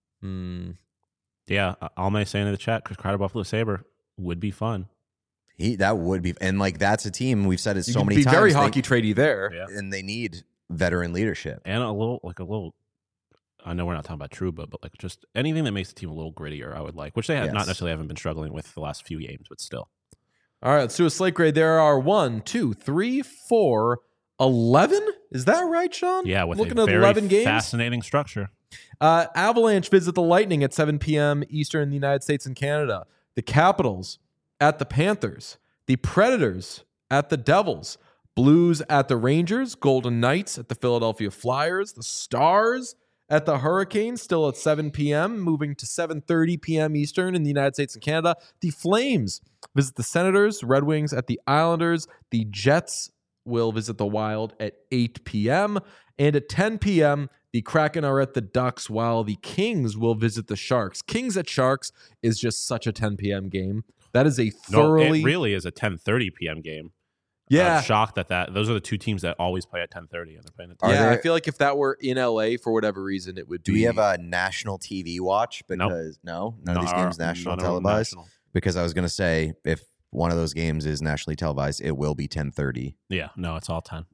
Yeah, Almay saying in the chat, Chris Kreider, Buffalo Sabre would be fun. That would be, and like that's a team we've said it You so could many be times. very they- hockey tradey there. Yeah, and they need veteran leadership. and a little. I know we're not talking about Trouba, but like just anything that makes the team a little grittier, I would like. Which they have Yes. not necessarily haven't been struggling with the last few games, but still. All right, let's do a slate grade. There are 1, 2, 3, 4, 11. Is that right, Sean? Yeah, with looking a at very 11 games. fascinating structure. Avalanche visit the Lightning at 7 p.m. Eastern in the United States and Canada. The Capitals at the Panthers. The Predators at the Devils. Blues at the Rangers, Golden Knights at the Philadelphia Flyers, the Stars at the Hurricanes, still at 7 p.m., moving to 7:30 p.m. Eastern in the United States and Canada. The Flames visit the Senators, Red Wings at the Islanders. The Jets will visit the Wild at 8 p.m. And at 10 p.m., the Kraken are at the Ducks, while the Kings will visit the Sharks. Kings at Sharks is just such a 10 p.m. game. That is a thoroughly... No, it really is a 10:30 p.m. game. Yeah. I'm shocked that those are the two teams that always play at 10:30 and they're playing at 10. I feel like if that were in LA for whatever reason, it would be... Do we have a national TV watch? Because none of these games national televised. Because I was going to say, if one of those games is nationally televised, it will be 10:30. Yeah, no, it's all 10.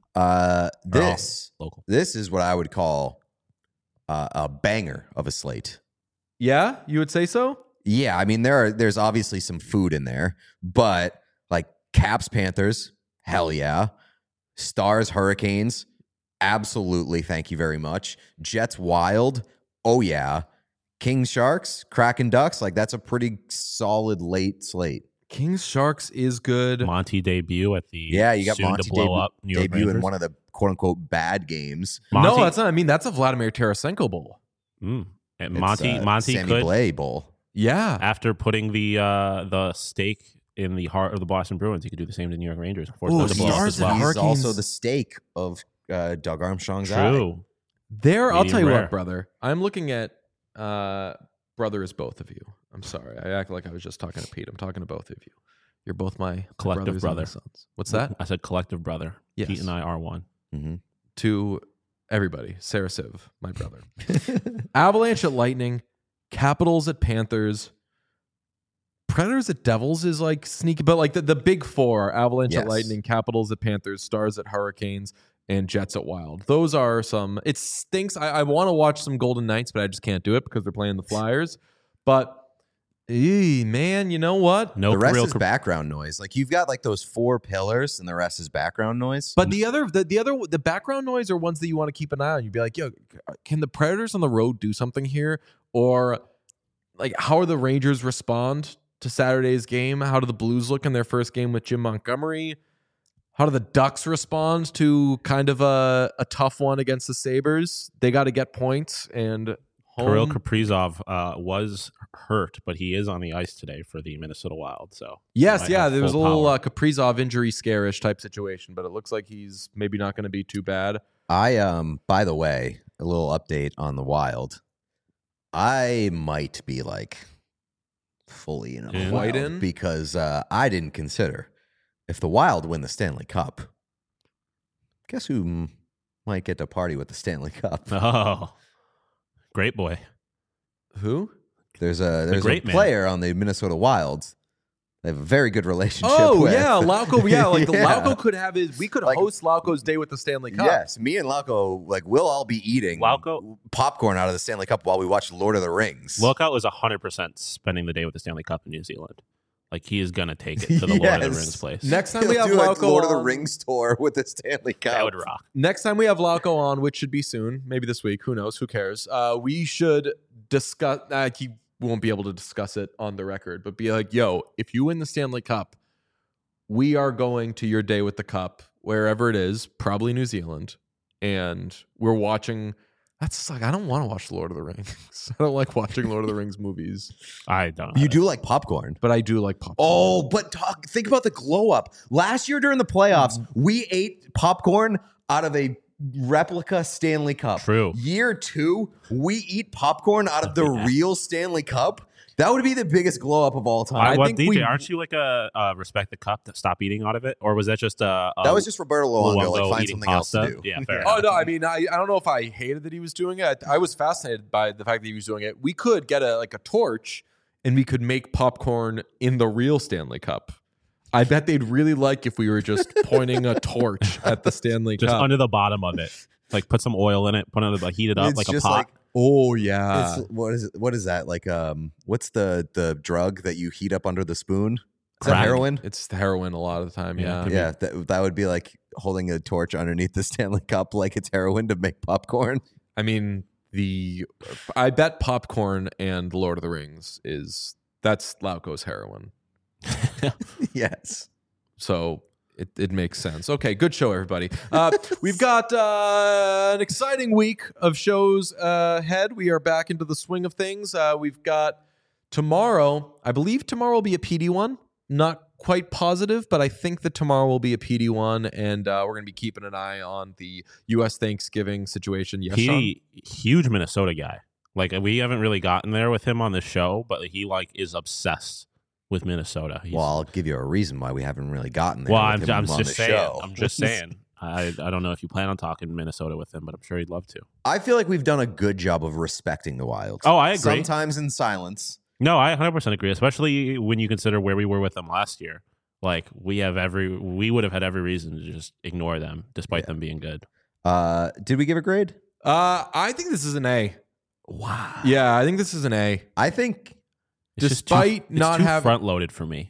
This local. This is what I would call a banger of a slate. Yeah, you would say so? Yeah, I mean there's obviously some food in there, but like Caps Panthers, hell yeah. Stars Hurricanes, absolutely, thank you very much. Jets Wild, oh yeah. Kings Sharks, Kraken Ducks, like that's a pretty solid late slate. Kings Sharks is good. Monty debut at the you got soon Monty to blow up New York debut in Rangers. one of the quote unquote bad games. No, that's not. I mean, that's a Vladimir Tarasenko bowl. And It's, Monty Sammy could, Blais Bowl. Yeah. after putting the stake in the heart of the Boston Bruins, he could do the same to New York Rangers. Force Ooh, them to blow up Stars as and well. He's Hurricanes. also the stake of Doug Armstrong's eye. True. There, I'll Medium tell you rare. what, brother. I'm looking at brother is both of you. I'm sorry. I act like I was just talking to Pete. I'm talking to both of you. You're both my Collective brothers and my brother. sons. What's that? I said collective brother. Yes. Pete and I are one. Mm-hmm. To everybody. Sarah Civ, my brother. Avalanche at Lightning. Capitals at Panthers. Predators at Devils is like sneaky, but like the big four: Avalanche at Yes. Lightning, Capitals at Panthers, Stars at Hurricanes, and Jets at Wild. Those are some. It stinks. I want to watch some Golden Knights, but I just can't do it because they're playing the Flyers. But man, you know what? No The rest real is background noise. Like you've got like those four pillars, and the rest is background noise. But the background noise are ones that you want to keep an eye on. You'd be like, yo, can the Predators on the road do something here? Or like, how are the Rangers respond to Saturday's game? How do the Blues look in their first game with Jim Montgomery? How do the Ducks respond to kind of a tough one against the Sabres? They got to get points, and Kirill Kaprizov was hurt, but he is on the ice today for the Minnesota Wild. So yes, he might have there was a full little power. Kaprizov injury scare-ish type situation, but it looks like he's maybe not going to be too bad. By the way, a little update on the Wild. I might be like fully in In? Quite Wild in? because I didn't consider if the Wild win the Stanley Cup. Guess who might get to party with the Stanley Cup? Oh, great boy. Who? There's a great man. player on the Minnesota Wild. They have a very good relationship. Oh with. yeah, Lauko. Yeah, like Yeah. Lauko could have his. We could Like- host Lauko's day with the Stanley Cup. Yes, me and Lauko, like, we'll all be eating Lauko- popcorn out of the Stanley Cup while we watch Lord of the Rings. Lookout was 100% spending the day with the Stanley Cup in New Zealand. Like he is gonna take it to the Lord of the Yes. Rings place. Next time He'll we have do a Lauko Lord of the on, Rings tour with the Stanley Cup. that would rock. Next time we have Lauko on, which should be soon, maybe this week. Who knows? Who cares? We should discuss. He won't be able to discuss it on the record, but be like, "Yo, if you win the Stanley Cup, we are going to your day with the cup, wherever it is, probably New Zealand, and we're watching." That's just like, I don't want to watch Lord of the Rings. I don't like watching Lord of the Rings movies, I don't. You do like popcorn. but I do like popcorn. Oh, but think about the glow up. Last year during the playoffs, we ate popcorn out of a replica Stanley Cup. True. Year 2, we eat popcorn out of the real Stanley Cup. That would be the biggest glow up of all time. I What, think DJ, we- aren't you like a respect the cup to stop eating out of it, or was that just a That was just Roberto Luongo, like Luongo find eating something else to pasta? do. Yeah, fair. Oh no! I mean, I don't know if I hated that he was doing it. I was fascinated by the fact that he was doing it. We could get a torch, and we could make popcorn in the real Stanley Cup. I bet they'd really like if we were just pointing a torch at the Stanley Just Cup. under the bottom of it, like put some oil in it, put it under, heat it up It's like a just pot. like oh yeah, it's, what is that? Like what's the drug that you heat up under the spoon? Is that Crack. heroin? it's the heroin a lot of the time. Yeah, Yeah, could be. Yeah, that would be like holding a torch underneath the Stanley Cup like it's heroin to make popcorn. I mean I bet popcorn and Lord of the Rings that's Lauko's heroin. Yes. So It makes sense. Okay, good show, everybody. We've got an exciting week of shows ahead. We are back into the swing of things. We've got tomorrow. I believe tomorrow will be a PD one. Not quite positive, but I think that tomorrow will be a PD one, and we're going to be keeping an eye on the U.S. Thanksgiving situation. Yes, Sean? PD, huge Minnesota guy. Like, we haven't really gotten there with him on this show, but he is obsessed with Minnesota. Well, I'll give you a reason why we haven't really gotten there. Well, with I'm him on just the saying. show. I'm just saying. I don't know if you plan on talking Minnesota with him, but I'm sure he'd love to. I feel like we've done a good job of respecting the Wild. Oh, I agree. Sometimes in silence. No, I 100% agree, especially when you consider where we were with them last year. Like, we would have had every reason to just ignore them, despite them being good. Did we give a grade? I think this is an A. Wow. Yeah, I think this is an A. I think. Despite not having front loaded for me.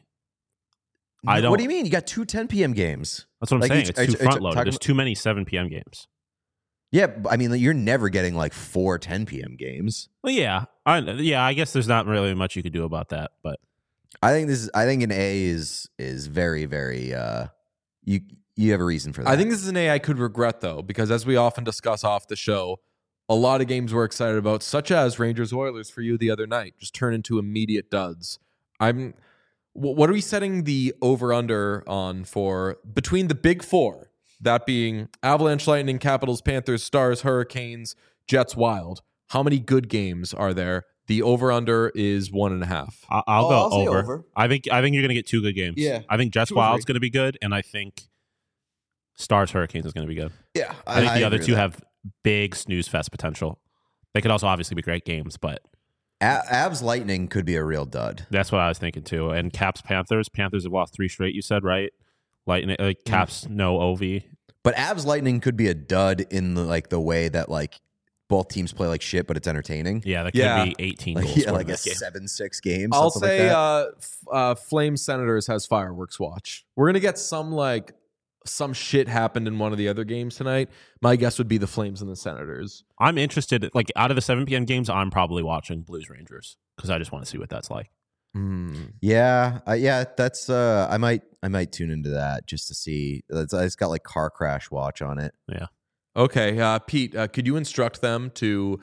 I don't. What do you mean? You got 2 10 p.m. games. That's what I'm Like, saying. are It's you too front loaded. talking There's too many 7 p.m. games. Yeah, I mean, you're never getting like 4 10 p.m. games. Well, yeah, I guess there's not really much you could do about that, but I think an A is very, very. You have a reason for that. I think this is an A I could regret, though, because as we often discuss off the show, a lot of games we're excited about, such as Rangers Oilers for you the other night, just turn into immediate duds. What are we setting the over-under on for between the big four, that being Avalanche, Lightning, Capitals, Panthers, Stars, Hurricanes, Jets, Wild? How many good games are there? The over-under is 1.5. I'll go say over. over. I think you're going to get 2 good games. Yeah. I think Jets 2 or 3. Wild's going to be good, and I think Stars Hurricanes is going to be good. Yeah, I think the other agree two with that. have big snooze fest potential. They could also obviously be great games, but Avs Lightning could be a real dud. that's what I was thinking too. And Caps Panthers have lost 3 straight. You said right? Lightning Caps no OV. But Avs Lightning could be a dud in the way that like both teams play like shit, but it's entertaining. Yeah, that could Yeah. be 18 Like, goals. yeah, scored like in a this game. 7-6 game. I'll something say like that. Flames Senators has fireworks watch. We're going to get some shit happened in one of the other games tonight. My guess would be the Flames and the Senators. I'm interested. Like, out of the 7 p.m. games, I'm probably watching Blues Rangers because I just want to see what that's like. Yeah, that's I might tune into that just to see. It's got like car crash watch on it. Yeah. Okay, Pete, could you instruct them to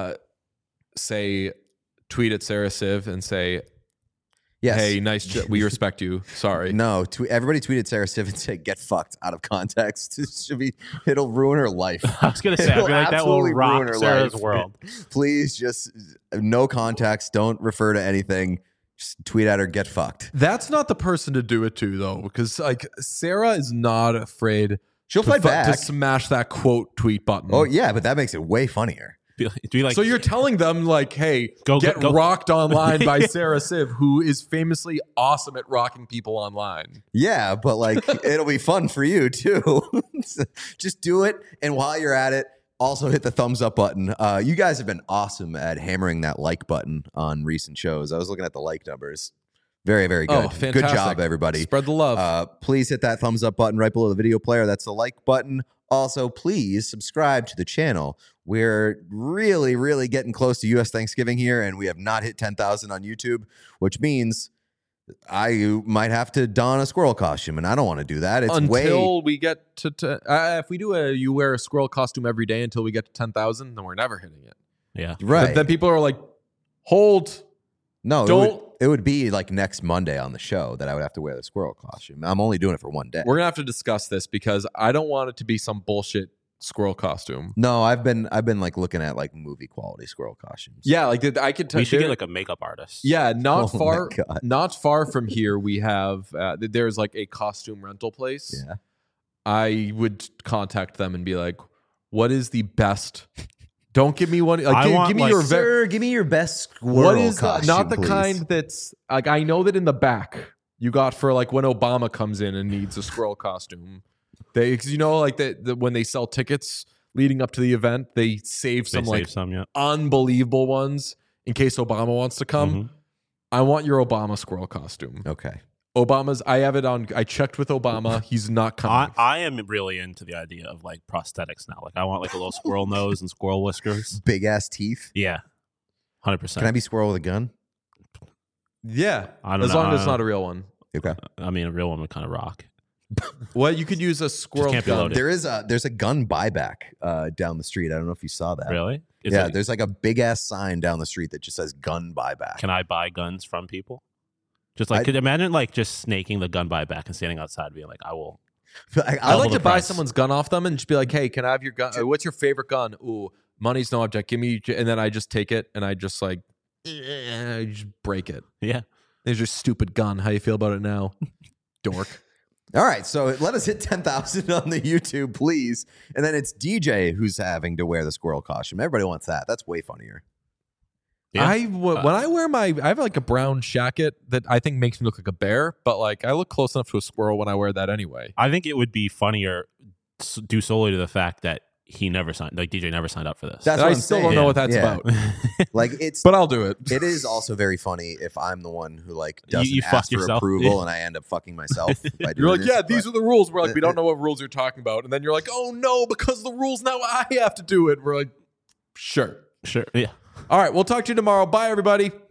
tweet at Sarah Civ and say, Yes. hey, nice, we respect you. Sorry. No, everybody tweeted Sarah Stiff and said, "Get fucked" out of context. It'll ruin her life. I was going to say, I feel It'll like that will absolutely ruin rock her Sarah's life. world. Please, just no context. Don't refer to anything. Just tweet at her. Get fucked. That's not the person to do it to, though, because like Sarah is not afraid. She'll to fight back. to smash that quote tweet button. Oh yeah, but that makes it way funnier. Be like, So you're telling them like, hey, Go- get go- rocked online by Sarah Civ, who is famously awesome at rocking people online. Yeah, but like it'll be fun for you too. Just do it, and while you're at it, also hit the thumbs up button. You guys have been awesome at hammering that like button on recent shows. I was looking at the like numbers. Very, very good. Oh, fantastic. Good job, everybody. Spread the love. Please hit that thumbs up button right below the video player. That's the like button. Also, please subscribe to the channel. We're really, really getting close to U.S. Thanksgiving here, and we have not hit 10,000 on YouTube, which means I might have to don a squirrel costume, and I don't want to do that. It's Until we get to if we do you wear a squirrel costume every day until we get to 10,000, then we're never hitting it. yeah. right. Then people are like, hold. No, Don't- it would be like next Monday on the show that I would have to wear the squirrel costume. I'm only doing it for one day. We're gonna have to discuss this because I don't want it to be some bullshit squirrel costume. No, I've been like looking at like movie quality squirrel costumes. Yeah, like I could tell. We should get like a makeup artist. Yeah, not Oh my far. God. Not far from here, we have there's like a costume rental place. Yeah. I would contact them and be like, "What is the best? Don't give me one. I want, give me like, your Sir, give me your best squirrel what is costume, not the please. kind that's like I know that in the back you got for like when Obama comes in and needs a squirrel costume. They, 'cause you know, like when they sell tickets leading up to the event, they save They some save like some, yeah. unbelievable ones in case Obama wants to come. Mhm. I want your Obama squirrel costume. Okay. Obama's. I have it on. I checked with Obama. He's not coming. I am really into the idea of like prosthetics now. Like I want like a little squirrel nose and squirrel whiskers. Big ass teeth. Yeah, 100%. Can I be squirrel with a gun? Yeah, I don't as know. long as it's not a real one. Okay. I mean, a real one would kind of rock. Well, you could use a squirrel can't be gun. loaded. There's a gun buyback down the street. I don't know if you saw that. Really? There's like a big ass sign down the street that just says gun buyback. Can I buy guns from people? Just like, could imagine like just snaking the gun buyback and standing outside being like, I will. I like the to buy price. someone's gun off them and just be like, "Hey, can I have your gun? What's your favorite gun? Ooh, money's no object. Give me." And then I just take it and I just like, I just break it. Yeah. There's your stupid gun. How you feel about it now, dork? All right, so let us hit 10,000 on the YouTube, please. And then it's DJ who's having to wear the squirrel costume. Everybody wants that. That's way funnier. Yeah. When I wear I have like a brown jacket that I think makes me look like a bear, but like I look close enough to a squirrel when I wear that anyway. I think it would be funnier due solely to the fact that he never signed, like DJ never signed up for this. That's And what I I'm still saying. don't know what that's Yeah. about, Like it's, but I'll do it. it is also very funny if I'm the one who like doesn't you ask fuck for yourself. approval Yeah. and I end up fucking myself. By You're doing like, this, yeah, but- these are the rules. We're like, we don't know what rules you're talking about, and then you're like, oh no, because the rules now I have to do it. We're like, sure. Sure. Yeah. All right, we'll talk to you tomorrow. Bye, everybody.